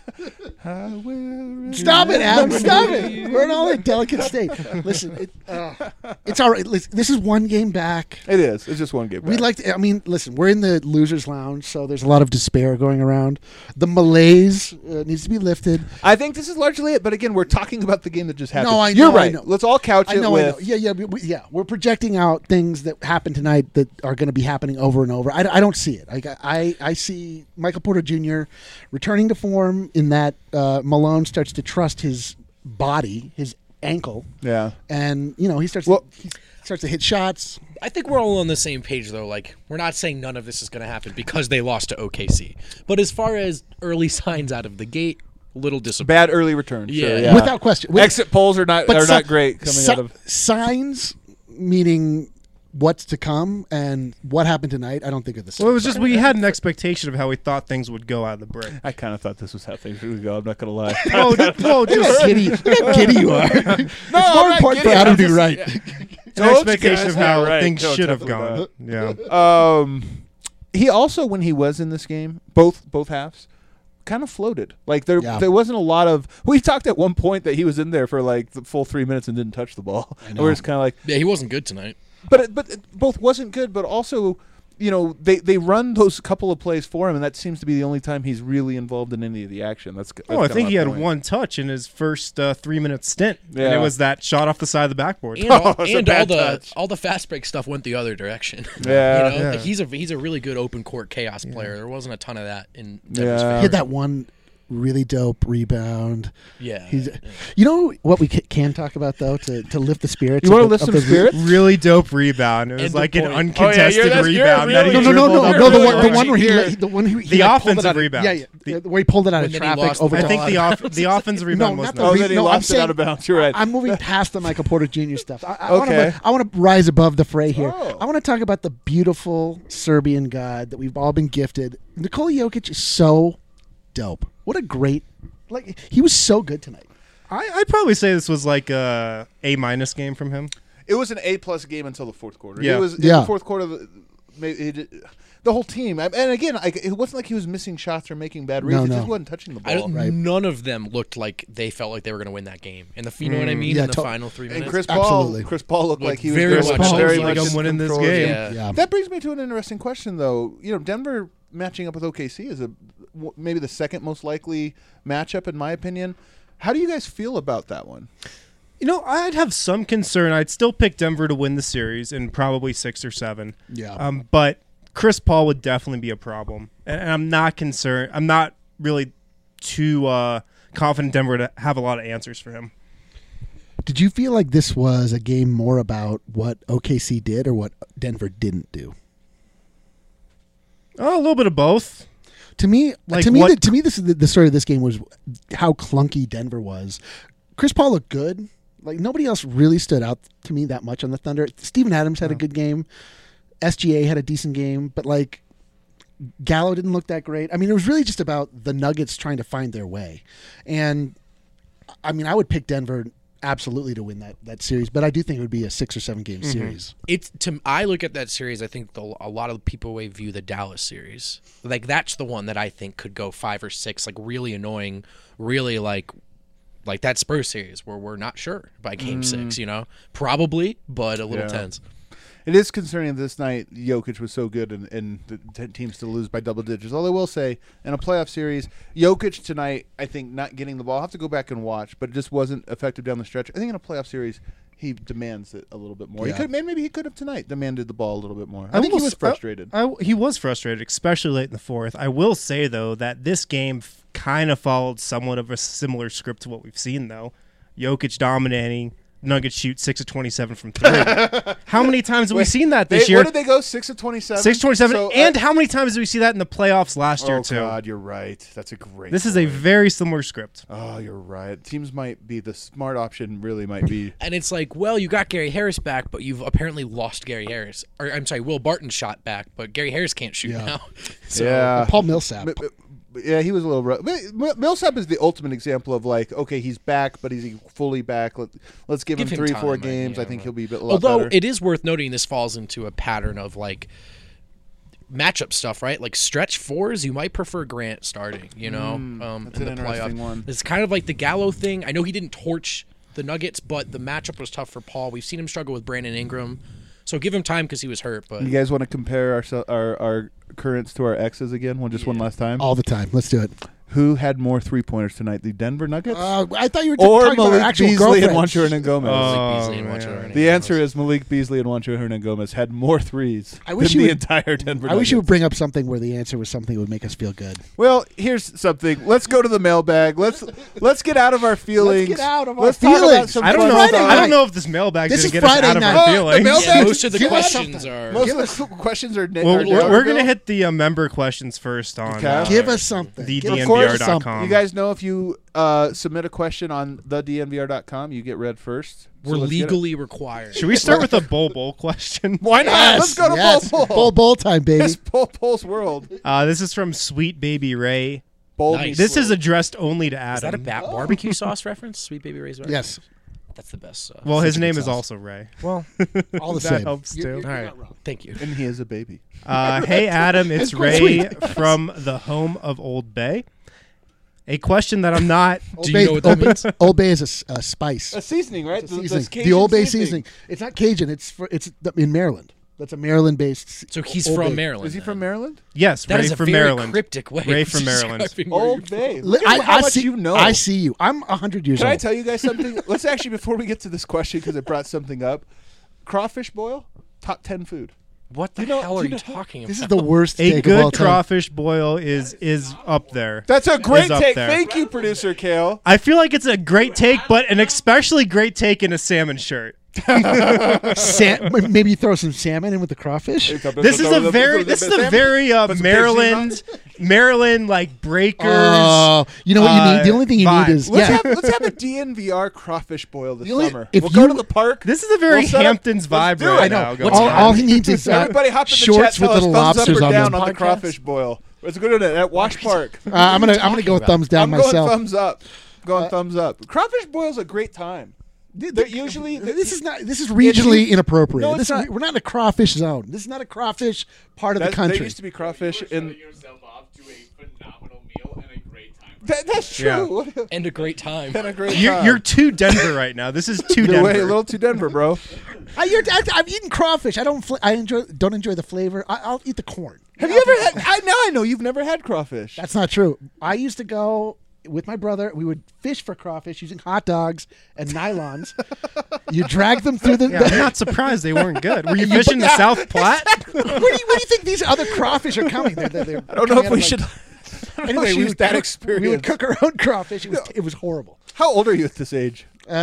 I will Stop it, Adam. remember Stop you. it. We're in all a delicate state. Listen, it, uh, it's all right. Listen, this is one game back. It is. It's just one game. We back. like to, I mean, listen, we're in the losers lounge, so there's a lot of despair going around. The malaise uh, needs to be lifted. I think this is largely it, but again, we're talking about the game that just happened. No, I You're know, I right. know. Let's all couch I it know, with. I know. Yeah, yeah, we, we- yeah. We're projecting out things that happened tonight that are going to be happening over and over. I, I don't see it. I, I, I see Michael Porter Junior returning to form in that uh, Malone starts to trust his body, his ankle, Yeah. and you know he starts Well- to, he starts to hit shots. I think we're all on the same page, though. Like, we're not saying none of this is going to happen because they lost to O K C. But as far as early signs out of the gate, a little disappointing. Bad early return. Yeah. Sure, yeah. Without question. With- Exit polls are not but are si- not great coming si- out of. signs, meaning what's to come and what happened tonight. I don't think are the same. Well, it was just we had an expectation of how we thought things would go out of the break. I kind of thought this was how things would go. I'm not gonna lie. Oh, th- well, Look how just giddy, look how giddy you are. it's more I'm not important for giddy, Adam I'm to do just- right. an Don't expectation guys of how get right. things No, should have definitely gone. Yeah. Um, he also, when he was in this game, both both halves, kind of floated. Like there, Yeah. there wasn't a lot of. We talked at one point that he was in there for like the full three minutes and didn't touch the ball. And we're just kind of like, Yeah, he wasn't good tonight. but it, but it both wasn't good. But also, you know, they they run those couple of plays for him, and that seems to be the only time he's really involved in any of the action. That's. that's Oh, I kinda think my he had point. one touch in his first uh, three-minute stint, and Yeah. it was that shot off the side of the backboard. And, all, it's a and all bad the touch. all the fast break stuff went the other direction. Yeah. you know, Yeah. Like, he's a he's a really good open court chaos player. There wasn't a ton of that in Denver's Yeah. He favor. had that one really dope rebound. Yeah, He's, yeah. you know what we ca- can talk about though to, to lift the spirits. You of want to the- lift of some the- spirits? Really dope rebound. It was And the like an point. uncontested Oh, yeah, you're- you're rebound. that he really- No, no, no, no, dribbled no. up The the one, the court. one where he, Here. let- the one who he The like, pulled it offensive out of- rebound. Yeah, yeah, The- yeah, where he pulled it out When of then he traffic lost over. the I think ball. the off- the offensive rebound no, was not the not. Oh, re- then he no, I'm lost it saying- out of bounds. You're right. I'm moving past the Michael Porter Junior stuff. I, I want Okay. to I want to rise above the fray here. Oh. I want to talk about the beautiful Serbian god that we've all been gifted. Nikola Jokic is so dope. What a great like he was so good tonight. I, I'd probably say this was like a A minus game from him. It was an A plus game until the fourth quarter. Yeah. It was in Yeah. the fourth quarter. The, maybe he did- the whole team, and again, I, it wasn't like he was missing shots or making bad reads. No, he no. just wasn't touching the I ball. don't, Right. None of them looked like they felt like they were going to win that game. And the you know what I mean? Yeah, in the to- final three And minutes. Chris Paul, Absolutely. Chris Paul looked Looked like he was very very much much, so. very Like, much I'm in winning this control. game. yeah. Yeah. That brings me to an interesting question, though. You know, Denver matching up with O K C is a w- maybe the second most likely matchup, in my opinion. How do you guys feel about that one? You know, I'd have some concern. I'd still pick Denver to win the series in probably six or seven. Yeah. Um, but Chris Paul would definitely be a problem, and, and I'm not concerned. I'm not really too uh, confident Denver to have a lot of answers for him. Did you feel like this was a game more about what O K C did or what Denver didn't do? Oh, a little bit of both. To me, Like to me, what- the, to me, this is the, the story of this game was how clunky Denver was. Chris Paul looked good. Like nobody else really stood out to me that much on the Thunder. Steven Adams had a good game. S G A had a decent game, but like Gallo didn't look that great. I mean, it was really just about the Nuggets trying to find their way. And I mean, I would pick Denver absolutely to win that, that series, but I do think it would be a six or seven game series. It's to I look at that series. I think the, a lot of people way view the Dallas series. Like that's the one that I think could go five or six. Like really annoying. Really like like that Spurs series where we're not sure by game six. You know, probably, but a little Yeah. tense. It is concerning this night Jokic was so good and, and the t- teams to lose by double digits. Although I will say, in a playoff series, Jokic tonight, I think not getting the ball, I'll have to go back and watch, but it just wasn't effective down the stretch. I think in a playoff series, he demands it a little bit more. Yeah. He could, maybe he could have tonight demanded the ball a little bit more. I, I think will he was s- frustrated. I, I- he was frustrated, especially late in the fourth. I will say, though, that this game f- kind of followed somewhat of a similar script to what we've seen, though. Jokic dominating. Nuggets shoot six of twenty-seven from three. How many times have we Wait, seen that They- this year? Where did they go? Six of twenty-seven. six of twenty-seven. So, uh, and how many times did we see that in the playoffs last year, oh too? God, you're right. That's a great. This is a point. very similar script. Oh, you're right. Teams might be the smart option. Really, might be. And it's like, well, you got Gary Harris back, but you've apparently lost Gary Harris. Or I'm sorry, Will Barton shot back, but Gary Harris can't shoot Yeah. now. So, yeah. Paul Millsap. But- but- but yeah, he was a little rough. But M- Millsap is the ultimate example of like, okay, he's back, but is he fully back? Let, let's give, Give him him three, time, four I- games. yeah, I think right. he'll be a bit a lot Although better. it is worth noting, this falls into a pattern of like matchup stuff, right? Like stretch fours, you might prefer Grant starting, you know, Mm, um, that's in an the interesting playoff. one. It's kind of like the Gallo thing. I know he didn't torch the Nuggets, but the matchup was tough for Paul. We've seen him struggle with Brandon Ingram, so give him time because he was hurt. But You guys want to compare our our our currents to our exes again? One just one Yeah. last time. All the time. Let's do it. Who had more three pointers tonight? The Denver Nuggets Uh, I thought you were or talking about our Malik actual Beasley and girlfriends. Juancho Hernangomez? Oh, Beasley and man. Juancho Hernangomez. The answer is Malik Beasley and Juancho Hernangomez had more threes I wish than you the would- entire Denver I wish you would Nuggets. bring up something where the answer was something that would make us feel good. Well, here's something. Let's go to the mailbag. Let's let's get out of our feelings. get out of our Let's talk about feelings. some I don't fun know. Friday I stuff. don't know if this mailbag's This gonna is get us Friday out of night. our Oh, the feelings. mailbag- yeah, most of the Give us questions something. are. Most of the questions are. Well, are we're, we're gonna Denverville. hit the uh, member questions first on. Okay. Uh, Give us something. the Give us D N V R dot com. You guys know if you uh, submit a question on the D N V R dot com, you get read first. So We're let's get it. legally required. Should we start with a Bull Bowl question? Why not? Yes, Let's go to yes. Bull Bowl. Bull Bowl time, baby. It's Bull Bull's world. Uh, this is from Sweet Baby Ray. Bold Nice. meets This is slow. addressed only to Adam. Is that a ba- barbecue sauce reference? Sweet Baby Ray's barbecue? Yes, That's the best sauce. Well, his Such a name good is sauce. also Ray. Well, all the That same. helps, You're- too. you're all right. not wrong. Thank you. And he is a baby. Uh, hey, Adam, it's It's quite Ray sweet. from the home of Old Bay. A question that I'm not. Old Do you Bay, know what that Old Bay- means? Old Bay is a s- a, spice. A seasoning, right? It's a seasoning. The Old Bay seasoning. It's not Cajun. It's for, it's the- in Maryland. That's a Maryland-based. So he's Old from Bay. Maryland. Is he then. from Maryland? Yes, That Ray is a from very Maryland. cryptic way. Ray of from Maryland. describing where Old you're Bay. Li- Look I, at how I much see, you know. I see you. I'm a hundred years Can I old. tell you guys something? Let's actually, before we get to this question, because it brought something up, crawfish boil, top ten food. What the You know- hell you are you know- talking about? This is the worst A take of all good time. crawfish boil is is up there. That's a great Is up take. there. Thank you, producer Kale. I feel like it's a great take, but an especially great take in a salmon shirt. Sa- maybe throw some salmon in with the crawfish. This is a very this is a very uh, Put some Maryland Maryland like breakers. Oh, you know what you uh, need? The only thing you vibe. need is Let's, yeah. have, let's have a D N V R crawfish boil this The only- summer. if We'll go you- to the park. This is a very We'll set up- Hamptons let's vibe do right it. now. I know. going What's all, on. all he needs is uh, Everybody hop in the shorts chat. Tell with us little thumbs up lobsters or on down them. on the Podcast? crawfish boil. Let's go to it at Wash Park. Uh, I'm gonna I'm gonna talking go about? thumbs down I'm myself. going thumbs up. Going Uh, thumbs up. Crawfish boil's a great time. They're usually This is not. This is regionally inappropriate. No, it's this is, not. we're not in a crawfish zone. This is not a crawfish part of that, the country. There used to be crawfish in. yourself off to a phenomenal meal and a great time. That, that's Yeah. true. and a great time. Been a great You're, time. you're too Denver right now. This is too You're Denver. way a little too Denver, bro. I, you're, I, I've eaten crawfish. I don't. Fl- I enjoy. Don't enjoy the flavor. I, I'll eat the corn. Have you ever had? I now I know you've never had crawfish. That's not true. I used to go with my brother. We would fish for crawfish using hot dogs and nylons. You drag them through the. Yeah, I'm not surprised they weren't good. Were you fishing the South Platte? where, do you, where do you think these other crawfish are coming? They're, they're, they're I don't know if we should. Anyway, we use would, that cook, experience. we would cook our own crawfish. It was it was horrible. How old are you at this age?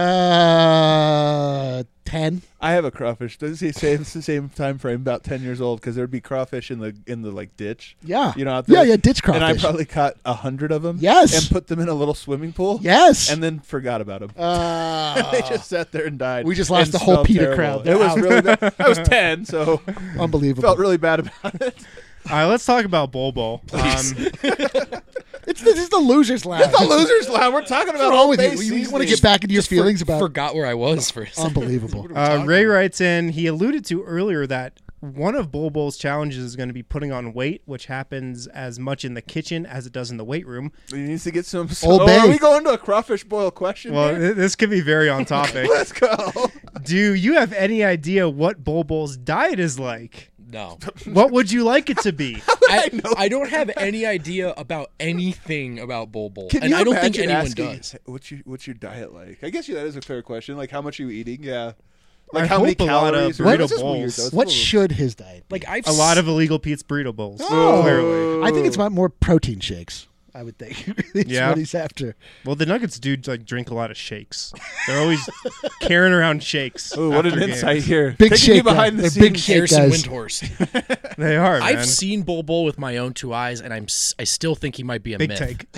Uh, ten. I have a crawfish. Does he say it's the same time frame? About ten years old, because there'd be crawfish in the in the like ditch. Yeah. You know, out Yeah, there. yeah, ditch crawfish. And I probably caught a hundred of them. Yes. And put them in a little swimming pool. Yes. And then forgot about them. uh, they just sat there and died. We just lost and the whole smelled Peter terrible. crowd. They're It was out. really bad. I was ten, so unbelievable. felt really bad about it. All right, let's talk about Bol Bol. Um, It's this is the losers' lab. It's the losers' loud. We're talking What's about wrong Old with Bay you? You, want to seasoning. get back into your Just for- feelings about Forgot where I was for a second. unbelievable. uh, Ray writes in, he alluded to earlier that one of Bol Bol's challenges is going to be putting on weight, which happens as much in the kitchen as it does in the weight room. He needs to get some. Old oh, Bay. are we going to a crawfish boil question? Well, here? th- this could be very on topic. Let's go. Do you have any idea what Bol Bol's diet is like? No. What would you like it to be? I, I know I don't have any idea about anything about Bol Bol. Can and you I don't think imagine anyone asking, does. What's your What's your diet like? I guess yeah, that is a fair question. Like, how much are you eating? Yeah. Like, I how many hope a lot of calories? or- burrito This is weird, bowls. though. It's What a little- should his diet be? Like I've A lot of illegal Pete's burrito bowls. Oh. Clearly. I think it's about more protein shakes. I would think. It's Yeah. what he's after. Well, the Nuggets do like drink a lot of shakes. They're always carrying around shakes. Ooh, what an after insight games. here. Big Taking you shake, behind guys. the They're big scenes. shake. Harrison guys. Windhorst. They are, man. I've seen Bol Bol with my own two eyes, and I'm s- I still think he might be a Big myth. take.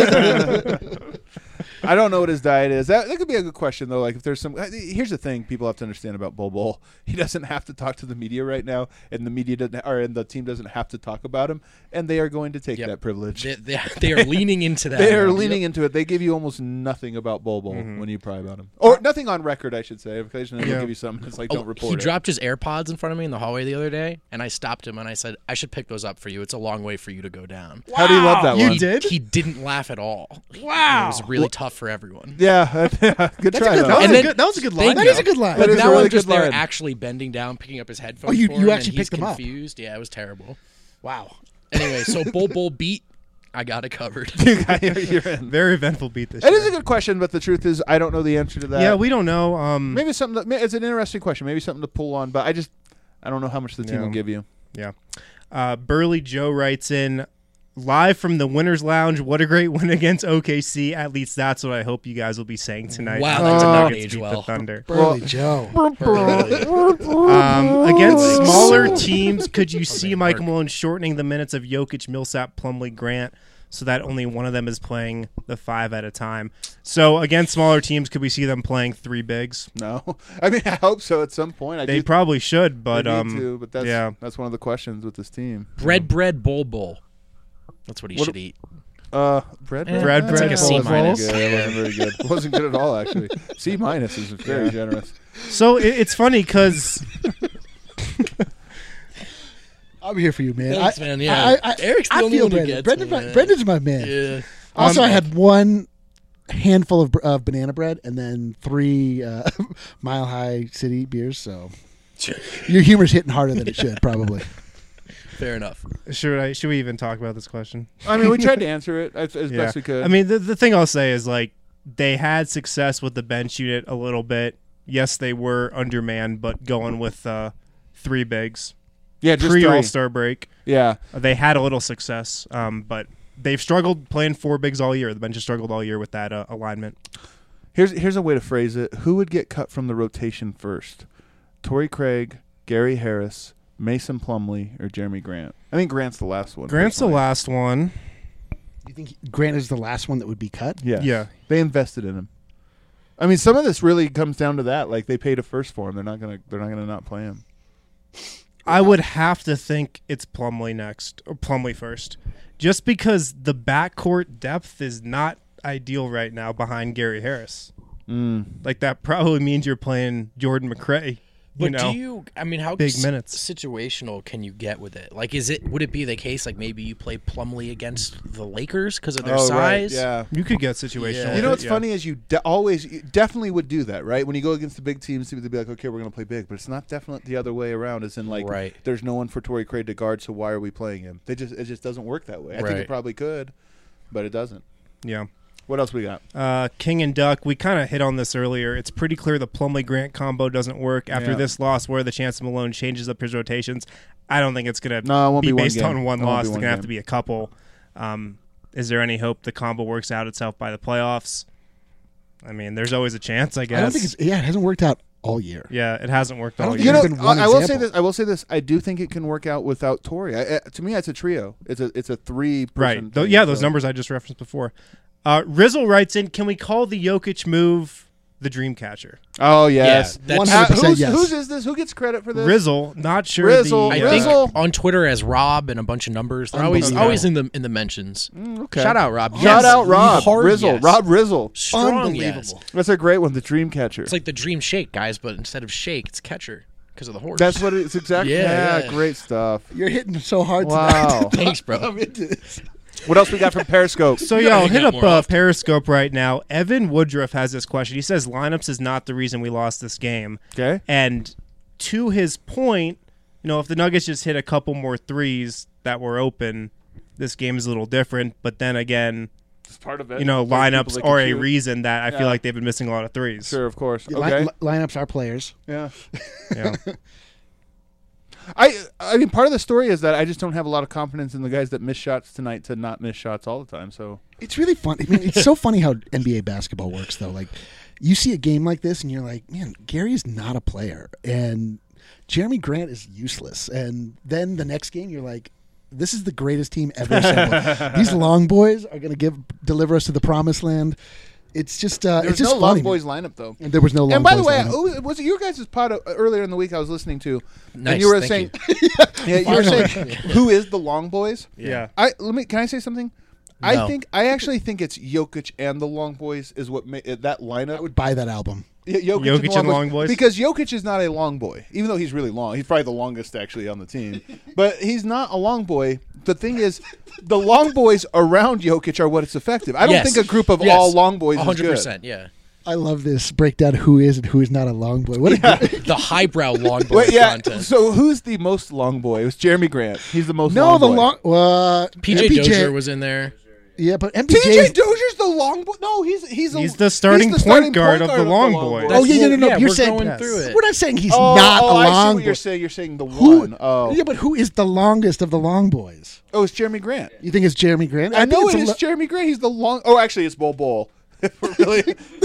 I don't know what his diet is. That, that could be a good question though. Like if there's some. Here's the thing: people have to understand about Bol Bol. He doesn't have to talk to the media right now, and the media doesn't, or and the team doesn't have to talk about him, and they are going to take Yep. that privilege. They, they, they are leaning into that. They are now. leaning Yep. into it. They give you almost nothing about Bol Bol Mhm. when you pry about him. Or nothing on record, I should say. Occasionally, Yeah. they'll give you something. It's like Oh, don't report he it. dropped his AirPods in front of me in the hallway the other day, and I stopped him and I said, "I should pick those up for you. It's a long way for you to go down." How do you love that You one? He did? He didn't laugh at all. Wow. It was really tough for everyone. Yeah, good try. good though. That was, And a then- good, that was a good Thank line. That you. is a good line. That But is a now really I'm just good there line. actually bending down, picking up his headphones. Oh, you- for you him, actually and he's picked them up. confused. Yeah, it was terrible. Wow. Anyway, so Bull Bull beat. I got it covered. You got- you're in. Very eventful beat this It year. is a good question, but the truth is, I don't know the answer to that. Yeah, we don't know. Um, maybe it's something. That, maybe it's an interesting question. Maybe something to pull on, but I just I don't know how much the team Yeah. will give you. Yeah. Uh, Burley Joe writes in, live from the Winners Lounge. What a great win against O K C. At least that's what I hope you guys will be saying tonight. Wow, after that the did not Nuggets age beat well. the Thunder. Burley Joe. Um, against smaller teams, could you Okay, see Mike Mark. Malone shortening the minutes of Jokic, Millsap, Plumlee, Grant, so that only one of them is playing the five at a time? So against smaller teams, could we see them playing three bigs? No, I mean I hope so at some point. I They do, probably should, but they need um, to, but that's yeah. that's one of the questions with this team. Bread, bread, Bull Bull. That's what he What- should eat. Uh, bread, Eh, Bread, That's bread, like a bowl, C bowl. minus. Yeah, that wasn't very good. It wasn't good at all, actually. C minus is very generous. So it, it's funny because I'm here for you, man. Thanks, I, man, yeah. I, I, Eric's the I only feel one who Brendan. gets Brendan, me, my- man. Brendan's my man. Yeah. Also, Um, I had one handful of, of banana bread and then three uh, Mile High City beers. So your humor's hitting harder than it should, probably. Fair enough. should I should we even talk about this question? I mean, we tried to answer it as, as Yeah. best we could. I mean, the the thing I'll say is like they had success with the bench unit a little bit. Yes, they were undermanned, but going with uh, three bigs yeah, just pre three. All Star break, Yeah, uh, they had a little success. Um, but they've struggled playing four bigs all year. The bench has struggled all year with that uh, alignment. here's here's a way to phrase it. Who would get cut from the rotation first? Torrey Craig, Gary Harris, Mason Plumlee, or Jeremy Grant? I think Grant's the last one. Grant's the personally. last one. You think Grant is the last one that would be cut? Yeah. Yeah. They invested in him. I mean, some of this really comes down to that. Like they paid a first for him. They're not gonna. They're not gonna not play him. I would have to think it's Plumlee next, or Plumlee first, just because the backcourt depth is not ideal right now behind Gary Harris. Mm. Like that probably means you're playing Jordan McRae. You But know, do you? I mean, how big s- minutes. situational can you get with it? Like, is it? Would it be the case like maybe you play Plumlee against the Lakers because of their Oh, right. size? Yeah. you could get situational. Yeah. with You know it, what's yeah. funny is you de- always you definitely would do that, right? When you go against the big teams, they'd be like, "Okay, we're going to play big," but it's not definitely the other way around. It's in like, Right. there's no one for Torrey Craig to guard, so why are we playing him? They just it just doesn't work that way. I think Right. it probably could, but it doesn't. Yeah. What else we got? Uh, King and Duck, we kind of hit on this earlier. It's pretty clear the Plumlee Grant combo doesn't work. After Yeah. this loss, where the chance Malone changes up his rotations, I don't think it's going to No, it won't be be one based game. on one It won't loss. be It's one going to have game. to be a couple. Um, is there any hope the combo works out itself by the playoffs? I mean, there's always a chance, I guess. I don't think it's. Yeah, it hasn't worked out all year. Yeah, it hasn't worked I don't all think year. You There's know, been one I, I will say example. this. I will say this. I do think it can work out without Torrey. I, uh, to me, it's a trio. It's a it's a three. Right. Th- yeah, those numbers I just referenced before. Uh, Rizzle writes in, can we call the Jokic move the dream catcher? Oh yes, Yeah, that's- one Uh, hundred percent who's, yes. whose is this? Who gets credit for this? Rizzle, not sure. Rizzle, the, I uh, think Rizzle. on Twitter as Rob and a bunch of numbers. They're always Unbelievable. always in the in the mentions. Mm, okay. Shout out Rob. Shout Yes. out Rob Hard Rizzle. yes. Rob Rizzle. Strong yes. Unbelievable. That's a great one. The dream catcher. It's like the dream shake, guys, but instead of shake, it's catcher because of the horse. That's what it's exactly. Yeah, Yeah, yeah. great stuff. You're hitting so hard Wow. tonight. Thanks, bro. I'm into this. What else we got from Periscope? So You gotta y'all hang hit out up more uh, often. Periscope right now. Evan Woodruff has this question. He says lineups is not the reason we lost this game. Okay. And to his point, you know, if the Nuggets just hit a couple more threes that were open, this game is a little different. But then again, It's part of it. you know, There's people lineups that can are a shoot. reason that I Yeah. feel like they've been missing a lot of threes. Sure, of course. Li- Okay. li- lineups are players. Yeah. Yeah. I I mean, part of the story is that I just don't have a lot of confidence in the guys that miss shots tonight to not miss shots all the time. So It's really fun. I mean, it's so funny how N B A basketball works, though. Like, you see a game like this, and you're like, man, Gary is not a player, and Jeremy Grant is useless. And then the next game, you're like, this is the greatest team ever assembled. These long boys are going to give deliver us to the promised land. It's just, uh, there's it's just no funny. long boys lineup though. And there was no long And by the boys way, lineup. oh, was it your guys' pod uh, earlier in the week I was listening to? Nice, And you were thank saying, yeah, you were Finally. saying, who is the long boys? Yeah. I let me. Can I say something? I No. think I actually think it's Jokic and the long boys is what ma- uh, that lineup. I would buy that album. Y- Jokic, Jokic and, the and long long boys. boys? Because Jokic is not a long boy, even though he's really long. He's probably the longest actually on the team, but he's not a long boy. The thing is, the long boys around Jokic are what is effective. I don't Yes. think a group of Yes. all long boys one is hundred good. percent, yeah. I love this breakdown. Who is and who is not a long boy? What a great- The highbrow long boy Wait, yeah. content. So who's the most long boy? It was Jeremy Grant. He's the most. no, long the boy. long. Uh, P J M P J Dozier was in there. Yeah, but M P P J. J Dozier's the long boy. No, he's he's a, He's the starting he's the point starting guard of the long boy. Oh yeah, no, no, no. Yeah, you're we're saying going through it. we're not saying he's Oh, not oh, a I see long what boy. you're saying. You're saying the Who? one. Oh, Yeah, but who is the longest of the long boys? oh, it's Jeremy Grant. You think it's Jeremy Grant? I, think know it's it a is lo- Jeremy Grant. He's the long. Oh, actually, it's Bol Bol. really,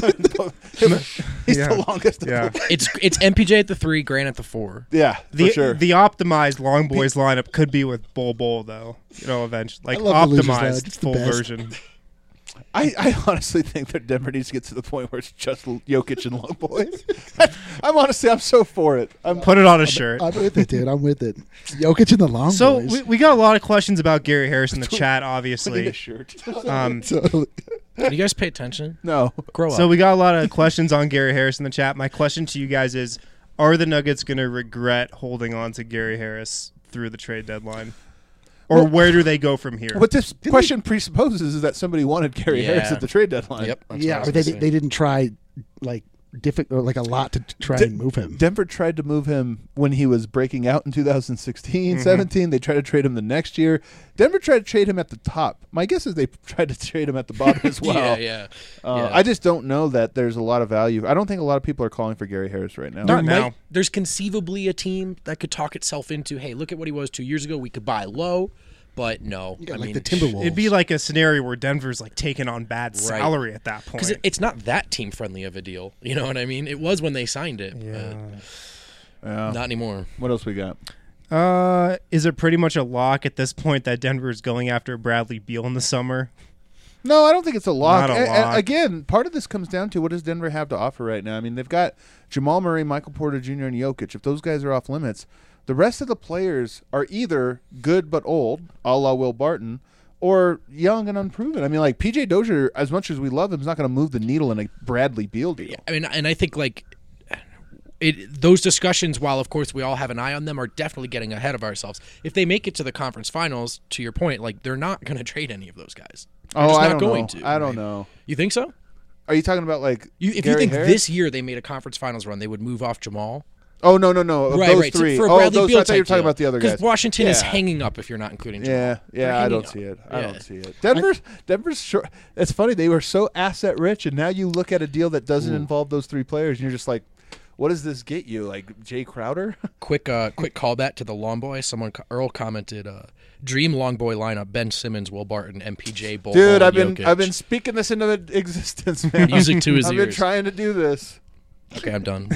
he's Yeah. the longest. Of Yeah. them. It's it's M P J at the three, Grant at the four. yeah, The for sure. the optimized long boys lineup could be with Bol Bol though. You know, eventually, like I love the Losers Lounge. optimized It's the full best. version. I, I honestly think that Denver needs to get to the point where it's just Jokic and long boys. I'm honestly, I'm so for it. I'm Put it on a shirt. I'm with it, dude. I'm with it. Jokic and the long So boys. we, we got a lot of questions about Gary Harris in the chat, I need obviously. a shirt. Um, So- Can you guys pay attention? no, Grow up. so we got a lot of questions on Gary Harris in the chat. My question to you guys is: are the Nuggets going to regret holding on to Gary Harris through the trade deadline, or Well- where do they go from here? what this question presupposes is that somebody wanted Gary Yeah. Harris at the trade deadline. Yep. that's yeah, what I or was they gonna say. they didn't try like difficult like a lot to try De- and move him. Denver tried to move him when he was breaking out in two thousand sixteen, Mm-hmm. seventeen. They tried to trade him the next year. Denver tried to trade him at the top. My guess is they tried to trade him at the bottom as well. yeah, yeah. Uh, yeah. I just don't know that there's a lot of value. I don't think a lot of people are calling for Gary Harris right now. Not There now. might- there's conceivably a team that could talk itself into, hey, look at what he was two years ago. We could buy low, but no. Yeah, I like mean, the Timberwolves. It'd be like a scenario where Denver's like taking on bad Right. salary at that point. because it, it's not that team friendly of a deal. You know what I mean? It was when they signed it, yeah. Yeah. but not anymore. What else we got? Uh, is it pretty much a lock at this point that Denver is going after Bradley Beal in the summer? No, I don't think it's a lock. Not a A- a- lock. again, part of this comes down to what does Denver have to offer right now. I mean, they've got Jamal Murray, Michael Porter Junior, and Jokic. If those guys are off limits, the rest of the players are either good but old, a la Will Barton, or young and unproven. I mean, like P J Dozier, as much as we love him, is not going to move the needle in a Bradley Beal deal. I mean, and I think like it, those discussions, while of course we all have an eye on them, are definitely getting ahead of ourselves. If they make it to the conference finals, to your point, like they're not going to trade any of those guys. They're Oh, just I not don't going know. to. I don't right? know. You think so? Are you talking about like You, if Gary you think Harris? this year they made a conference finals run, they would move off Jamal. Oh no no no! Of right, those right. So three. for a oh, Bradley those. Beal I thought you were type talking deal. about the other guys. Because Washington is Yeah. hanging up if you're not including Jamal. Yeah, They're yeah, I hanging don't up. see it. I Yeah. don't see it. Denver's Denver's short. It's funny they were so asset rich, and now you look at a deal that doesn't involve those three players, and you're just like, what does this get you? Like Jay Crowder? Quick, uh, quick callback to the long boy. Someone Earl commented, uh, "Dream long boy lineup: Ben Simmons, Will Barton, M P J, Bol Dude, Bol, I've been Jokic." I've been speaking this into existence, man. Music to his I've been ears. trying to do this. Okay, I'm done.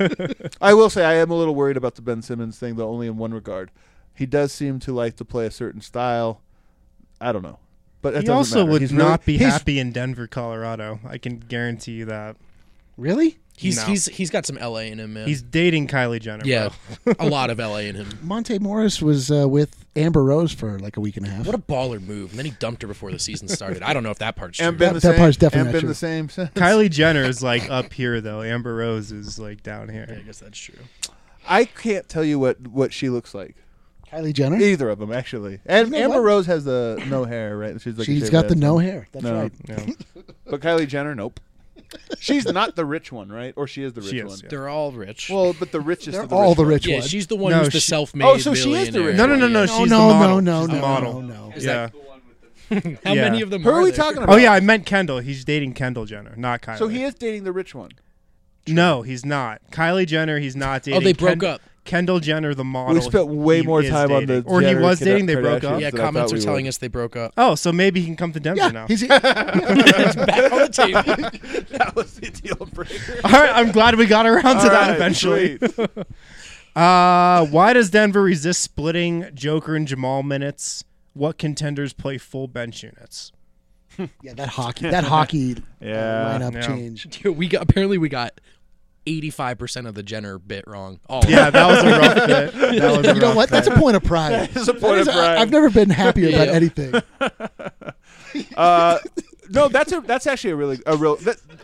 I will say I am a little worried about the Ben Simmons thing, though only in one regard. He does seem to like to play a certain style. I don't know, but it He doesn't also matter. would He's not really- be he's- happy in Denver, Colorado. I can guarantee you that. Really? He's No. he's he's got some L A in him, man. He's dating Kylie Jenner. yeah, bro. a lot of L A in him. Monte Morris was uh, with Amber Rose for like a week and a half. What a baller move! And then he dumped her before the season started. I don't know if that part's true. And been That- the that same. part's definitely and not been true. the same. since. Kylie Jenner is like up here though. Amber Rose is like down Yeah, I here. guess that's true. I can't tell you what, what she looks like. Kylie Jenner? Either of them, actually. And You know Amber what? Rose has the no hair, right? She's like a She's shaved got the head. no hair. That's No. right. Yeah. But Kylie Jenner, nope. She's not the rich one, right? Or she is the rich She is, one. yeah. They're all rich. Well, but the richest They're of the all rich the ones. rich yeah, ones. she's the one No, who's the she- self-made. Oh, so she is the billionaire. rich No, no, no, one. no. No, She's no, the model. no, She's no, the no, model. no, no. Is Yeah. that- The one with the How Yeah. many of them? Who are we there? talking about? Oh yeah, I meant Kendall. He's dating Kendall Jenner, not Kylie. So he is dating the rich one. No, he's not. Kylie Jenner, he's not dating. Oh, they broke Ken- up. Kendall Jenner, the model. We spent way he more is time on the dating. Or he Jenner was Kardashians dating. They broke up. Yeah, than I comments thought are we telling would. us they broke up. Oh, so maybe he can come to Denver Yeah, now. he's Back on the table. That was the deal breaker. All right, I'm glad we got around to All that right, eventually. sweet. Uh, why does Denver resist splitting Joker and Jamal minutes? What contenders play full bench units? yeah, that hockey, that hockey Yeah. lineup Yeah. change. Dude, we got apparently we got eighty-five percent of the Jenner bit wrong. All of Yeah, it. that was a rough bit. That was a You know rough what? That's bit. a point of pride. It's a That point is- of I- pride. I've never been happier about Yeah. anything. Uh, no, that's a that's actually a really a real. That,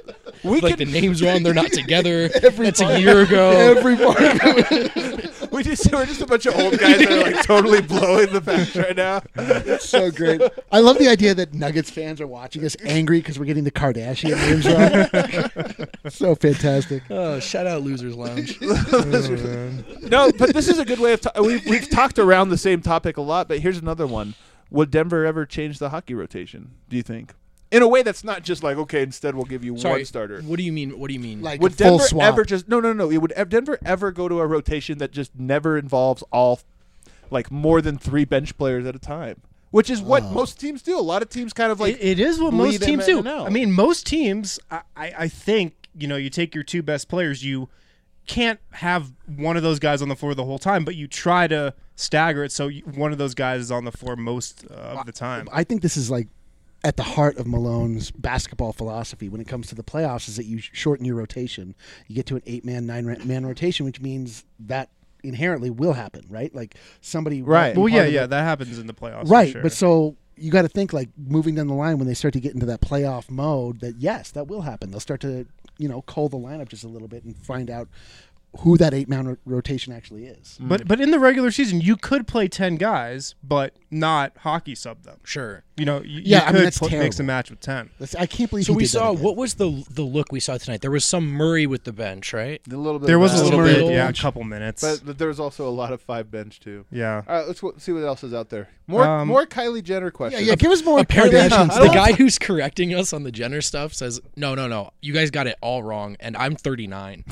We like can- the names wrong. They're not together. Every That's part- a year ago. Every part of it. we just we're just a bunch of old guys that are like totally blowing the facts right now. It's so great. I love the idea that Nuggets fans are watching us angry because we're getting the Kardashian names wrong. So fantastic. Oh, shout out Losers Lounge. No, but this is a good way of ta- we've we've talked around the same topic a lot. But here's another one: would Denver ever change the hockey rotation? Do you think? In a way that's not just like, okay, instead we'll give you Sorry, one starter. What do you mean? What do you mean? Like Would a full Denver swap. ever just no no no? It would ev- Denver ever go to a rotation that just never involves all like more than three bench players at a time, which is what Oh. most teams do. A lot of teams kind of like it, it is what bleed most in teams and do. out. I mean, most teams, I, I, I think, you know, you take your two best players, you can't have one of those guys on the floor the whole time, but you try to stagger it so you, one of those guys is on the floor most uh, of the time. I think this is like at the heart of Malone's basketball philosophy when it comes to the playoffs is that you shorten your rotation. You get to an eight-man, nine-man rotation, which means that inherently will happen, right? Like somebody Right. won't be Well, part yeah, of yeah, it. that happens in the playoffs. for Right, sure. but so you got to think like moving down the line when they start to get into that playoff mode that yes, that will happen. They'll start to, you know, cull the lineup just a little bit and find out who that eight-man ro- rotation actually is. But but in the regular season, you could play ten guys, but not hockey sub them. sure. You know, you, Yeah, you I mean, could that's put, mix terrible. and match with ten. That's, I can't believe So he we did that saw again. what was the the look we saw tonight? There was some Murray with the bench, right? a little bit. There of was that. a little little bit, bit. yeah, a couple minutes. but, but there was also a lot of five bench too. yeah. All right, let's w- see what else is out there. More Um, more Kylie Jenner Yeah, questions. yeah, give us more Apparently, Kardashian I the don't- guy who's correcting us on the Jenner stuff says, "No, no, no, you guys got it all wrong, and I'm thirty-nine."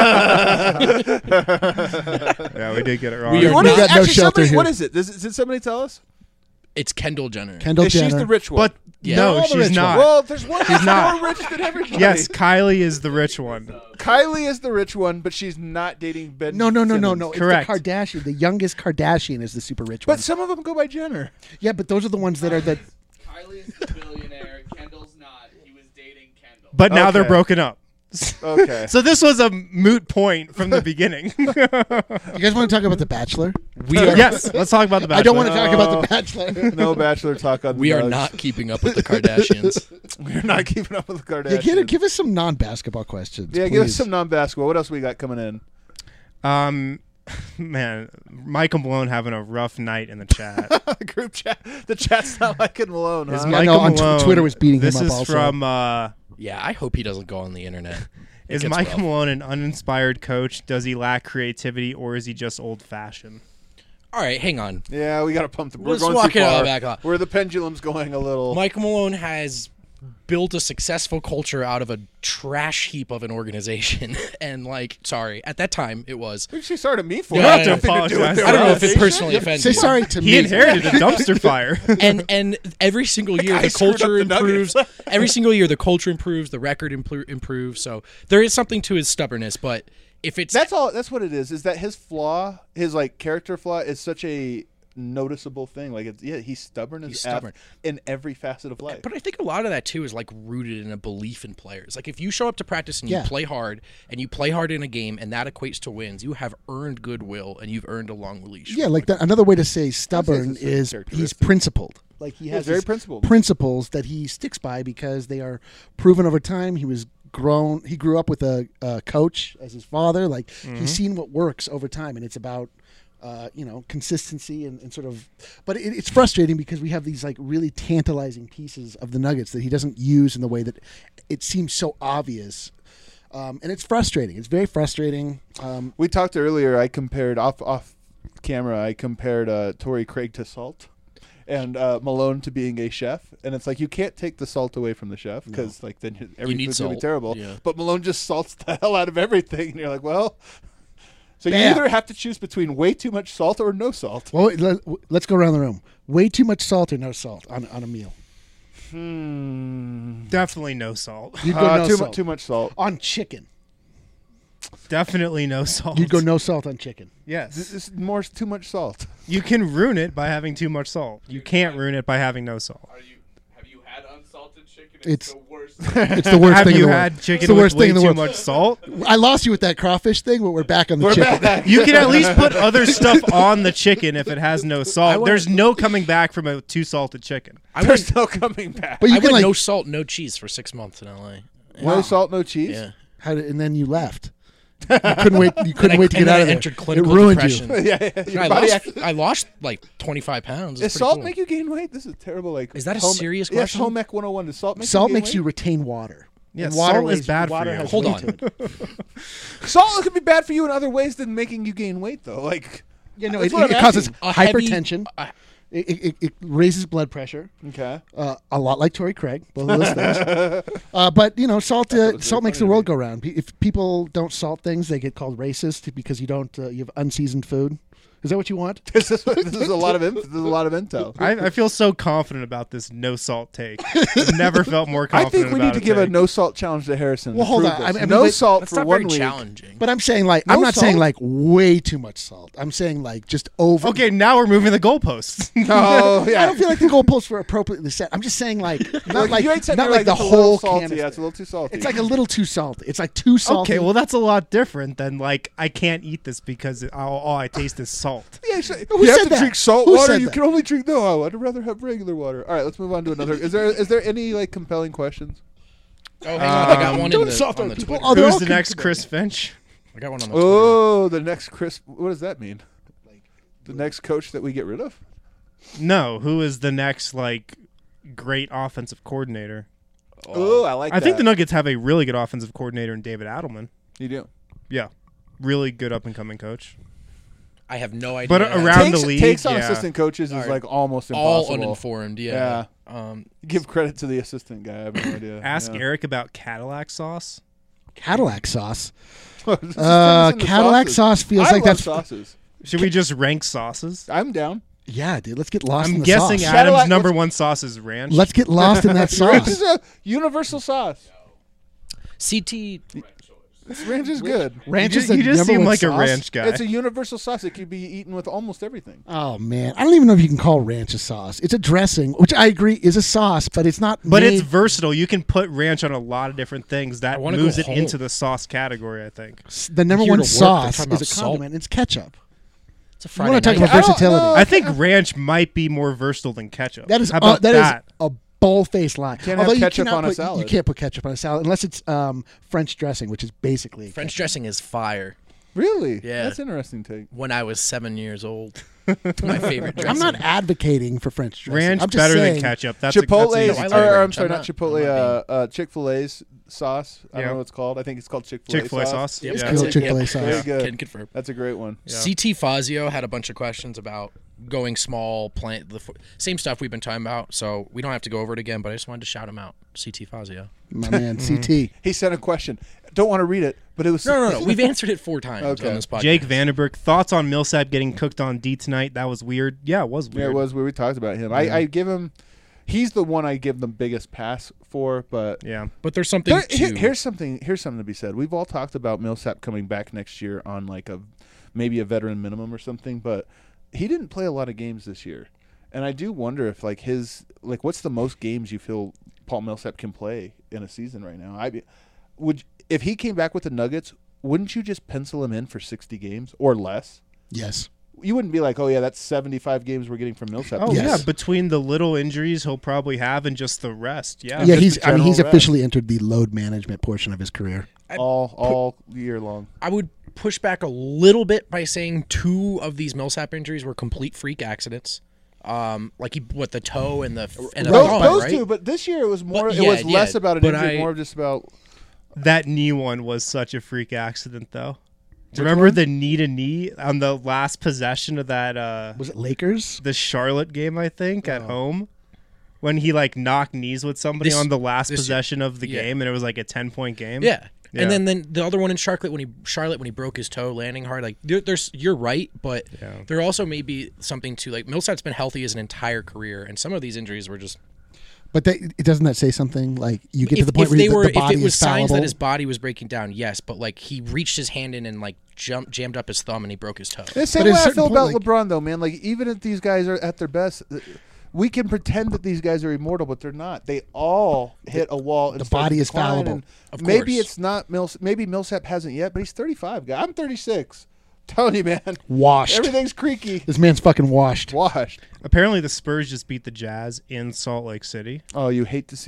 Yeah, we did get it wrong. We are What not- is, got no actually, shelter somebody, here. what is it? Does, did somebody tell us? It's Kendall Jenner. Kendall Yeah, she's Jenner. the rich one. But Yeah. no, They're all the she's rich not. one. Well, there's one that's not. more rich than everybody. Yes, Kylie is the rich one. Kylie is the rich one, but she's not dating Ben. no, no, no, no, Simmons. no. It's Correct. the Kardashian. The youngest Kardashian is the super rich But one. some of them go by Jenner. Yeah, but those are the ones that are the. Kylie's the billionaire. Kendall's not. He was dating Kendall. But now they're Okay. broken up. Okay. So this was a moot point from the beginning. You guys want to talk about The Bachelor? We are yes, let's talk about the Bachelor. I don't want to talk about No. The Bachelor. no bachelor talk on. we the are Nugs. not keeping up with the Kardashians. We're not keeping up with the Kardashians. Yeah, give, give us some non-basketball questions. Yeah, give us please. some non-basketball. What else we got coming in? Um, man, Michael Malone having a rough night in the chat. Group chat. The chat's not liking Malone. Is Huh? Yeah, Michael no, on tw- Malone, Twitter was beating this him up is also. from uh, Yeah, I hope he doesn't go on the internet. It is gets Michael rough. Malone an uninspired coach? Does he lack creativity, or is he just old-fashioned? All right, hang on. Yeah, we got to pump the. We're Let's going walk too it all far. back up. Where the pendulum's going a little. Michael Malone has built a successful culture out of a trash heap of an organization, and like, sorry, at that time it was. What did she start at me for? Yeah, It had I nothing to do with apologize. their I don't know if it organization. personally offends Say you. sorry to me. He inherited a dumpster fire. and and every single year guy the screwed culture up the improves. Nuggets. Every single year the culture improves, the record impl- improves. So there is something to his stubbornness, but if it's That's all. That's what it is. Is that his flaw, his like character flaw, is such a noticeable thing. Like, it's, yeah, he's stubborn as He's F stubborn. in every facet of life. But I think a lot of that too is like rooted in a belief in players. Like if you show up to practice and you Yeah. play hard and you play hard in a game and that equates to wins, you have earned goodwill and you've earned a long leash. Yeah, like that, another way to say stubborn it's a is he's characteristic. principled. Like he He's has very these principled. principles that he sticks by because they are proven over time. He was grown. He grew up with a, a coach as his father. Like he's seen what works over time, and it's about uh, you know consistency and, and sort of. But it, it's frustrating because we have these like really tantalizing pieces of the Nuggets that he doesn't use in the way that it seems so obvious. Um, and it's frustrating. It's very frustrating. Um, We talked earlier. I compared off off camera. I compared uh, Torrey Craig to Salt, and uh, Malone to being a chef. And it's like you can't take the salt away from the chef because like then you- every need food's gonna be salt, terrible. yeah. But Malone just salts the hell out of everything, and you're like, well. So you Bam. either have to choose between way too much salt or no salt. well, let, let's go around the room. Way too much salt or no salt on, on a meal? Hmm. Definitely no salt. You'd go Uh, no too, mu- salt. too much salt. On chicken. Definitely no salt. You'd go no salt on chicken. This Yes. is more too much salt. You can ruin it by having too much salt. You can't ruin it by having no salt. Are you? Have you had unsalted chicken? It's- the worst. It's the worst Have thing in you the had world. chicken it's the with worst way thing in the too world. much salt? I lost you with that crawfish thing, but we're back on the We're chicken. back. You can at least put other stuff on the chicken if it has no I salt. went- There's no coming back from a too salted chicken. I There's went, no coming back. But you I can went like no salt, no cheese for six months in L A. No salt, no cheese. Yeah. How did, and then you left. You couldn't wait. You couldn't And I- wait to and get then out I of there. entered It clinical ruined depression. you. yeah, yeah. Your I body lost, actually- I lost like twenty-five pounds. It's Does pretty salt cool. make you gain weight? This is terrible. Like, Is that a home- serious Yes, question? home ec one oh one. Does salt make Salt you gain makes you weight? retain water. Yeah, And salt weighs- is bad for water you. has Hold weight on. to it. Salt could be bad for you in other ways than making you gain weight, though. Like, Yeah, no, That's it, what it I'm causes asking. A heavy- hypertension. uh, It, it, it raises blood pressure. okay. Uh, a lot like Tory Craig, both of those things. Uh, but you know, salt uh, was salt really makes the funny to world me. go round. Pe- If people don't salt things, they get called racist because you don't. Uh, you have unseasoned food. Is that what you want? This is, this is a lot of inf- this is a lot of intel. I, I feel so confident about this no salt take. I've never felt more I confident. think we need about to give a take. no salt challenge to Harrison. Well, to hold prove on. this. I mean- I mean, no but- salt That's for not one very week. challenging. But I'm saying like No I'm not saying salt? like way too much salt. I'm saying like just over. Okay, now we're moving the goalposts. Oh yeah. I don't feel like the goalposts were appropriately set. I'm just saying like not like you ain't said not you're like the it's a little whole salty. can. Yeah, it's a little too salty. It's like a little too salty. It's like too salty. Okay, well that's a lot different than like I can't eat this because it, all, all I taste is salt. yeah, so Who you have said to that? drink salt Who water. said You that? can only drink no. I'd rather have regular water. All right, let's move on to another. Is there is there any like compelling questions? Oh, hang on. I got Um, one in don't the, salt on the other people. Twitter. Oh, they're Who's all the con- next Chris Finch? I got one on the Twitter. Oh, the next Chris. What does that mean? The next coach that we get rid of? No, who is the next like great offensive coordinator? Oh, I like. I think the that. Nuggets have a really good offensive coordinator in David Adelman. You do. Yeah, really good up and coming coach. I have no idea. But around takes, the league, takes on yeah. assistant coaches is Alright. like almost all impossible. uninformed. Yeah. Um, Give credit to the assistant guy. I have no idea. Ask yeah. Eric about Cadillac sauce. Cadillac sauce. Just turn this Uh, into Cadillac sauces. sauce feels I like love that's. sauces. Should we just rank sauces? I'm down. Yeah, dude. Let's get lost in I'm the guessing sauce. Cadillac- Adam's number let's- one sauce is ranch. Let's get lost in that Ranch is sauce. a universal sauce. C T. Ranch is good. Ranch you is just, the you just number seem one like a sauce. ranch guy. It's a universal sauce. It can be eaten with almost everything. Oh man, I don't even know if you can call ranch a sauce. It's a dressing, which I agree is a sauce, but it's not. but made, it's versatile. You can put ranch on a lot of different things. That wanna moves go it home. into the sauce category, I think. the number Here one to work, they're sauce talking is a about salt. condiment. It's ketchup. It's a You Friday want to talk night. about I don't versatility? know. I think ranch might be more versatile than ketchup. That is How uh, about that is that? a bull-faced lie. Can't have Although you ketchup cannot on a put- salad. You can't put ketchup on a salad unless it's um, French dressing, which is basically French dressing is fire. Really? Yeah. That's an interesting take. When I was seven years old, my favorite dressing. I'm not advocating for French dressing. ranch I'm just better saying, than ketchup. That's a, Chipotle's, that's No, easy I or, like to or I'm ranch. sorry, I'm not not- Chipotle. I'm not Uh, uh, Chick-fil-A's sauce. I Yeah. don't know what it's called. I think it's called Chick-fil-A, Chick-fil-A sauce. sauce. Yep. Yeah. That's Good it. Chick-fil-A Yep. sauce. Very good. Can confirm. That's a great one. Yeah. C T Fazio had a bunch of questions about going small, plant the f- same stuff we've been talking about. So we don't have to go over it again. But I just wanted to shout him out. C T Fazio. my man, C T. He sent a question. Don't want to read it, but it was No, no, no. We've answered it four times Okay. on this podcast. Jake Vanderberg, thoughts on Millsap getting cooked on D tonight? That was weird. Yeah, it was weird. Yeah, it was where we talked about him. I, I give him. He's the one I give the biggest pass for, but Yeah. But there's something There- to. here- here's something. Here's something to be said. We've all talked about Millsap coming back next year on like a maybe a veteran minimum or something, but he didn't play a lot of games this year, and I do wonder if like his like what's the most games you feel Paul Millsap can play in a season right now? I would if he came back with the Nuggets, wouldn't you just pencil him in for sixty games or less? Yes. You wouldn't be like, oh yeah, that's seventy-five games we're getting from Millsap. Oh Yes. yeah, between the little injuries he'll probably have and just the rest. Yeah. Yeah, just he's. the I mean, he's general officially entered the load management portion of his career. all all year long. I would push back a little bit by saying two of these Millsap injuries were complete freak accidents. Um, like he, what the toe and the and the Those, thumb, those right? two, but this year it was more. But it yeah, was less yeah, about an but injury, I- more just about. That knee one was such a freak accident though. Do you remember the knee to knee on the last possession of that uh Was it Lakers? the Charlotte game, I think, Oh. at home? When he like knocked knees with somebody This- on the last this- possession of the yeah. game and it was like a ten point game. Yeah. Yeah. And then, then the other one in Charlotte when he Charlotte when he broke his toe landing hard, like there, there's you're right, but Yeah. there also may be something to like Millsap's been healthy his entire career, and some of these injuries were just But they, it doesn't that say something like you get if, to the point if where they you, were the if body it was is signs fallible? that his body was breaking down, yes, but like he reached his hand in and like jumped jammed up his thumb and he broke his toe. The same But at way a I certain feel point, about like- LeBron, though, man. Like even if these guys are at their best, uh, we can pretend that these guys are immortal, but they're not. They all hit a wall. And the start to body is decline, fallible. and Of maybe course. it's not Mills. Maybe Millsap hasn't yet, but he's thirty-five. Guy, I'm thirty-six. Telling you, man, washed. everything's creaky, This man's fucking washed. washed. Apparently the Spurs just beat the Jazz in Salt Lake City. Oh, you hate to see it.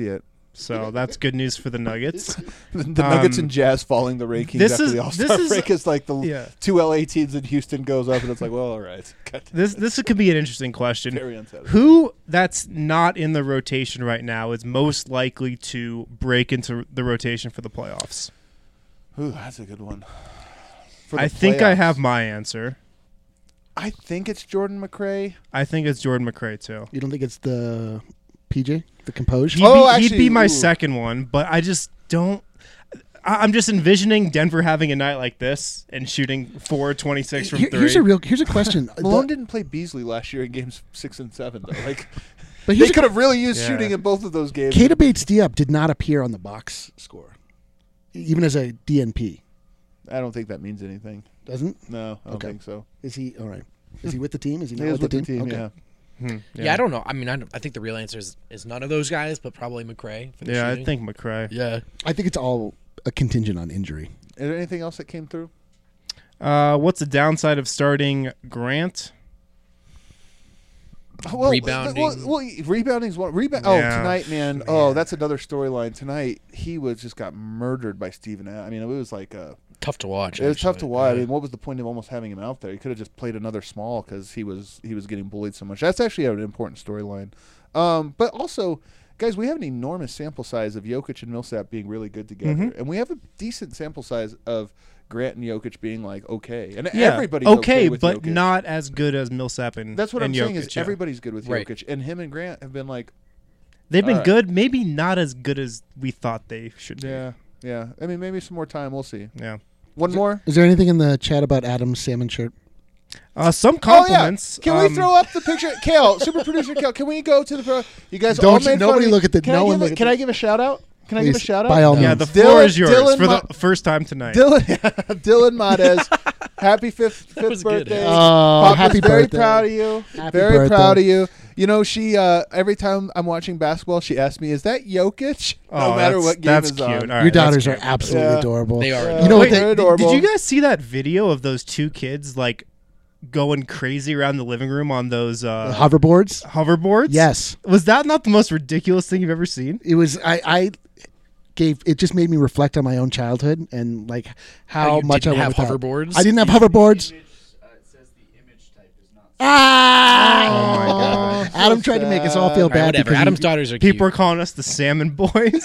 So that's good news for the Nuggets. the Nuggets Um, and Jazz falling the rankings this after is- the All-Star this is- break is like the Yeah. two L A teams in Houston goes up, and it's like, well, all right. God, This this could be an interesting question. very unsatisfying. Who that's not in the rotation right now is most likely to break into the rotation for the playoffs? Ooh, that's a good one. For the I think I playoffs. have my answer. I think it's Jordan McRae. I think it's Jordan McRae too. You don't think it's the P J, the Composure? He'd, Oh, be, he'd actually, be my ooh. second one, but I just don't. I- I'm just envisioning Denver having a night like this and shooting four twenty-six from Here- three. here's a real. Here's a question. Malone The- didn't play Beasley last year in games six and seven, though. Like, but they here's a- could have really used Yeah. shooting in both of those games. Keita Bates-Diop did not appear on the box score, even as a D N P. I don't think that means anything. Doesn't? No, I don't Okay. think so. Is he all right? Is he with the team? Is he He not is with, with the team, Okay. yeah. Hmm, Yeah. I don't know. I mean, I, don't- I think the real answer is, is none of those guys, but probably McRae. For the Yeah, I shooting. think McRae. Yeah. I think it's all a contingent on injury. Is there anything else that came through? Uh, what's the downside of starting Grant? Oh, well, Rebounding. Well, well, rebounding's one. Rebound. Oh, Yeah. tonight, man. Oh, that's another storyline. Tonight, he was just got murdered by Steven Adams. I mean, it was like a. Tough to watch. It was tough to actually. watch. I Yeah. mean, what was the point of almost having him out there? He could have just played another small because he was he was getting bullied so much. That's actually an important storyline. Um, but also, guys, we have an enormous sample size of Jokic and Millsap being really good together, Mhm. and we have a decent sample size of Grant and Jokic being like okay, and Yeah, everybody's okay, okay with but Jokic. not as good as Millsap and That's what and I'm saying Jokic, is yeah. everybody's good with Right. Jokic, and him and Grant have been like, They've been Alright. good, maybe not as good as we thought they should be. yeah, yeah. I mean, maybe some more time. We'll see. Yeah. One more. Is there anything in the chat about Adam's salmon shirt? Uh, some Oh compliments. yeah. Can um, we throw up the picture, Kale, super producer Kale? Can we go to the pro? You guys Don't all you- made fun nobody of me. look at the- Can no I one give look a, at Can the- I give a shout out? Can I give a Please, shout out? by all Yeah, means. the floor Dylan- is yours Dylan for Ma- the first time tonight. Dylan, Dylan Modes, happy fifth fifth was good. birthday. Oh, Papa's happy very birthday. proud of you. Happy very birthday. proud of you. You know, she uh, every time I'm watching basketball, she asks me, "Is that Jokic?" Oh, no matter that's- what game that's is cute. on. All right, Your that's daughters are cute. absolutely Yeah. adorable. They are. Yeah. You know what They're they- Did, adorable. did you guys see that video of those two kids like going crazy around the living room on those The uh, hoverboards? hoverboards? Yes. Was that not the most ridiculous thing you've ever seen? It was. I. I gave. It just made me reflect on my own childhood and like how Oh, you much I didn't went have without. hoverboards? I didn't have hoverboards. Image, uh, it says the image type is not. Ah! Oh my God. Adam So tried to make us all sad. feel All right, bad whatever. because he- Adam's daughters are cute. People are calling us the Salmon Boys.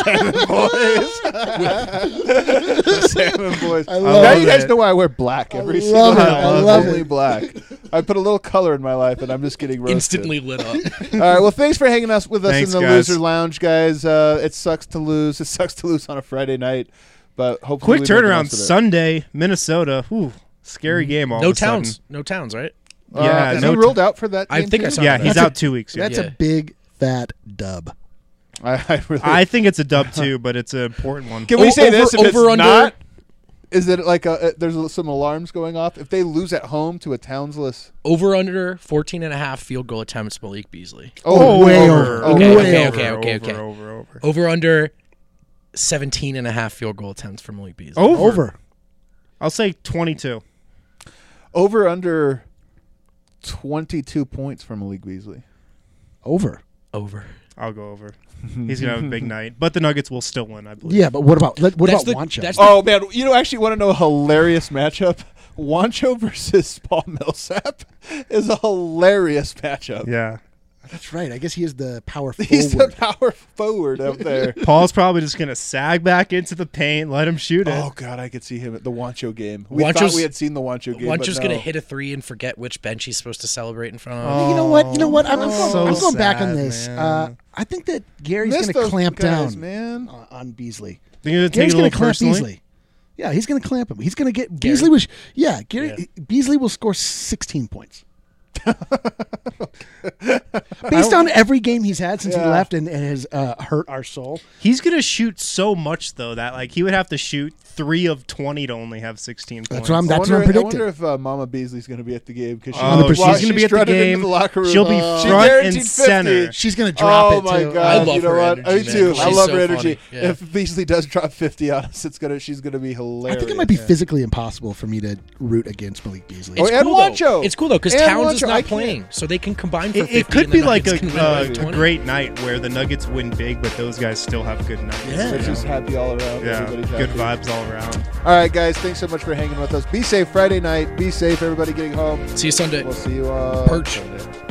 Salmon boys. I now love you guys it. know why I wear black I every love single it. time. I love Only it. black. I put a little color in my life, and I'm just getting roasted. instantly lit up. All right. Well, thanks for hanging us with us Thanks, in the guys. loser lounge, guys. Uh, it sucks to lose. It sucks to lose on a Friday night, but hopefully Quick we make the turnaround. most of it. Sunday, Minnesota. Ooh, scary game. All no of a sudden. towns. No towns, right? Uh, Yeah, is no he t- ruled out for that? I game think I too? saw Yeah, that. he's That's a- out two weeks. Yeah. That's Yeah. a big fat dub. I, I really. I think it's a dub too, but it's an important one. Can we O- say over- this? If it's over, under? not, is it like a, uh, there's some alarms going off? If they lose at home to a townsless, Over under fourteen and a half field goal attempts, Malik Beasley. oh, way over. over. Okay, Way okay, over. okay, okay, over, okay. over, over. Over under seventeen and a half field goal attempts for Malik Beasley. Over. Over. I'll say twenty-two. over under twenty-two points from Malik Beasley. Over. Over. I'll go over. He's gonna have a big night, but the Nuggets will still win, I believe. Yeah, but what about let- what That's about the- Wancho? that's the- Oh man, you know, actually want to know a hilarious matchup? Wancho versus Paul Millsap is a hilarious matchup. Yeah. That's right. I guess he is the power forward. He's the power forward up there. Paul's probably just gonna sag back into the paint, let him shoot it. Oh god, I could see him at the Wancho game. We thought Wancho's- we had seen the Wancho game. Wancho's but gonna no. hit a three and forget which bench he's supposed to celebrate in front of. Oh. You know what? You know what? I'm, I'm going, So I'm going back on sad, this. man. Uh, I think that Gary's Missed going to those clamp guys, down man. on, on Beasley. They're gonna take Gary's it a going little to clamp personally. Beasley. Yeah, he's going to clamp him. He's going to get Beasley was yeah, Gary Beasley will score sixteen points. Based on every game he's had since he Yeah. left and, and has uh, hurt our soul. He's gonna shoot so much though that like he would have to shoot three of twenty to only have sixteen points. That's what I'm- I That's wonder, what I'm I predicting. wonder if uh, Mama Beasley's going to be at the game because Oh, she's gonna be at the game. The locker room. She'll be Uh, she front and guaranteed center. fifty. She's gonna drop oh it my too. god! I love you know her what? energy, Me too. man. I She's love so her energy. funny. Yeah. If Beasley does drop fifty on us, it's gonna she's gonna be I hilarious. think it might be Yeah. physically impossible for me to root against Malik Beasley. Oh, It's and cool, Wancho. though. It's cool though because And Towns is Wancho. I not can't- playing, so they can combine for It, fifty. it could and be the like a, Nuggets can win uh, by a twenty. great night where the Nuggets win big, but those guys still have good nights. Yeah. It's just happy all around. Yeah, Everybody's good happy. vibes all around. All right, guys. Thanks so much for hanging with us. Be safe Friday night. Be safe, everybody getting home. See you Sunday. We'll see you on Perch. Sunday.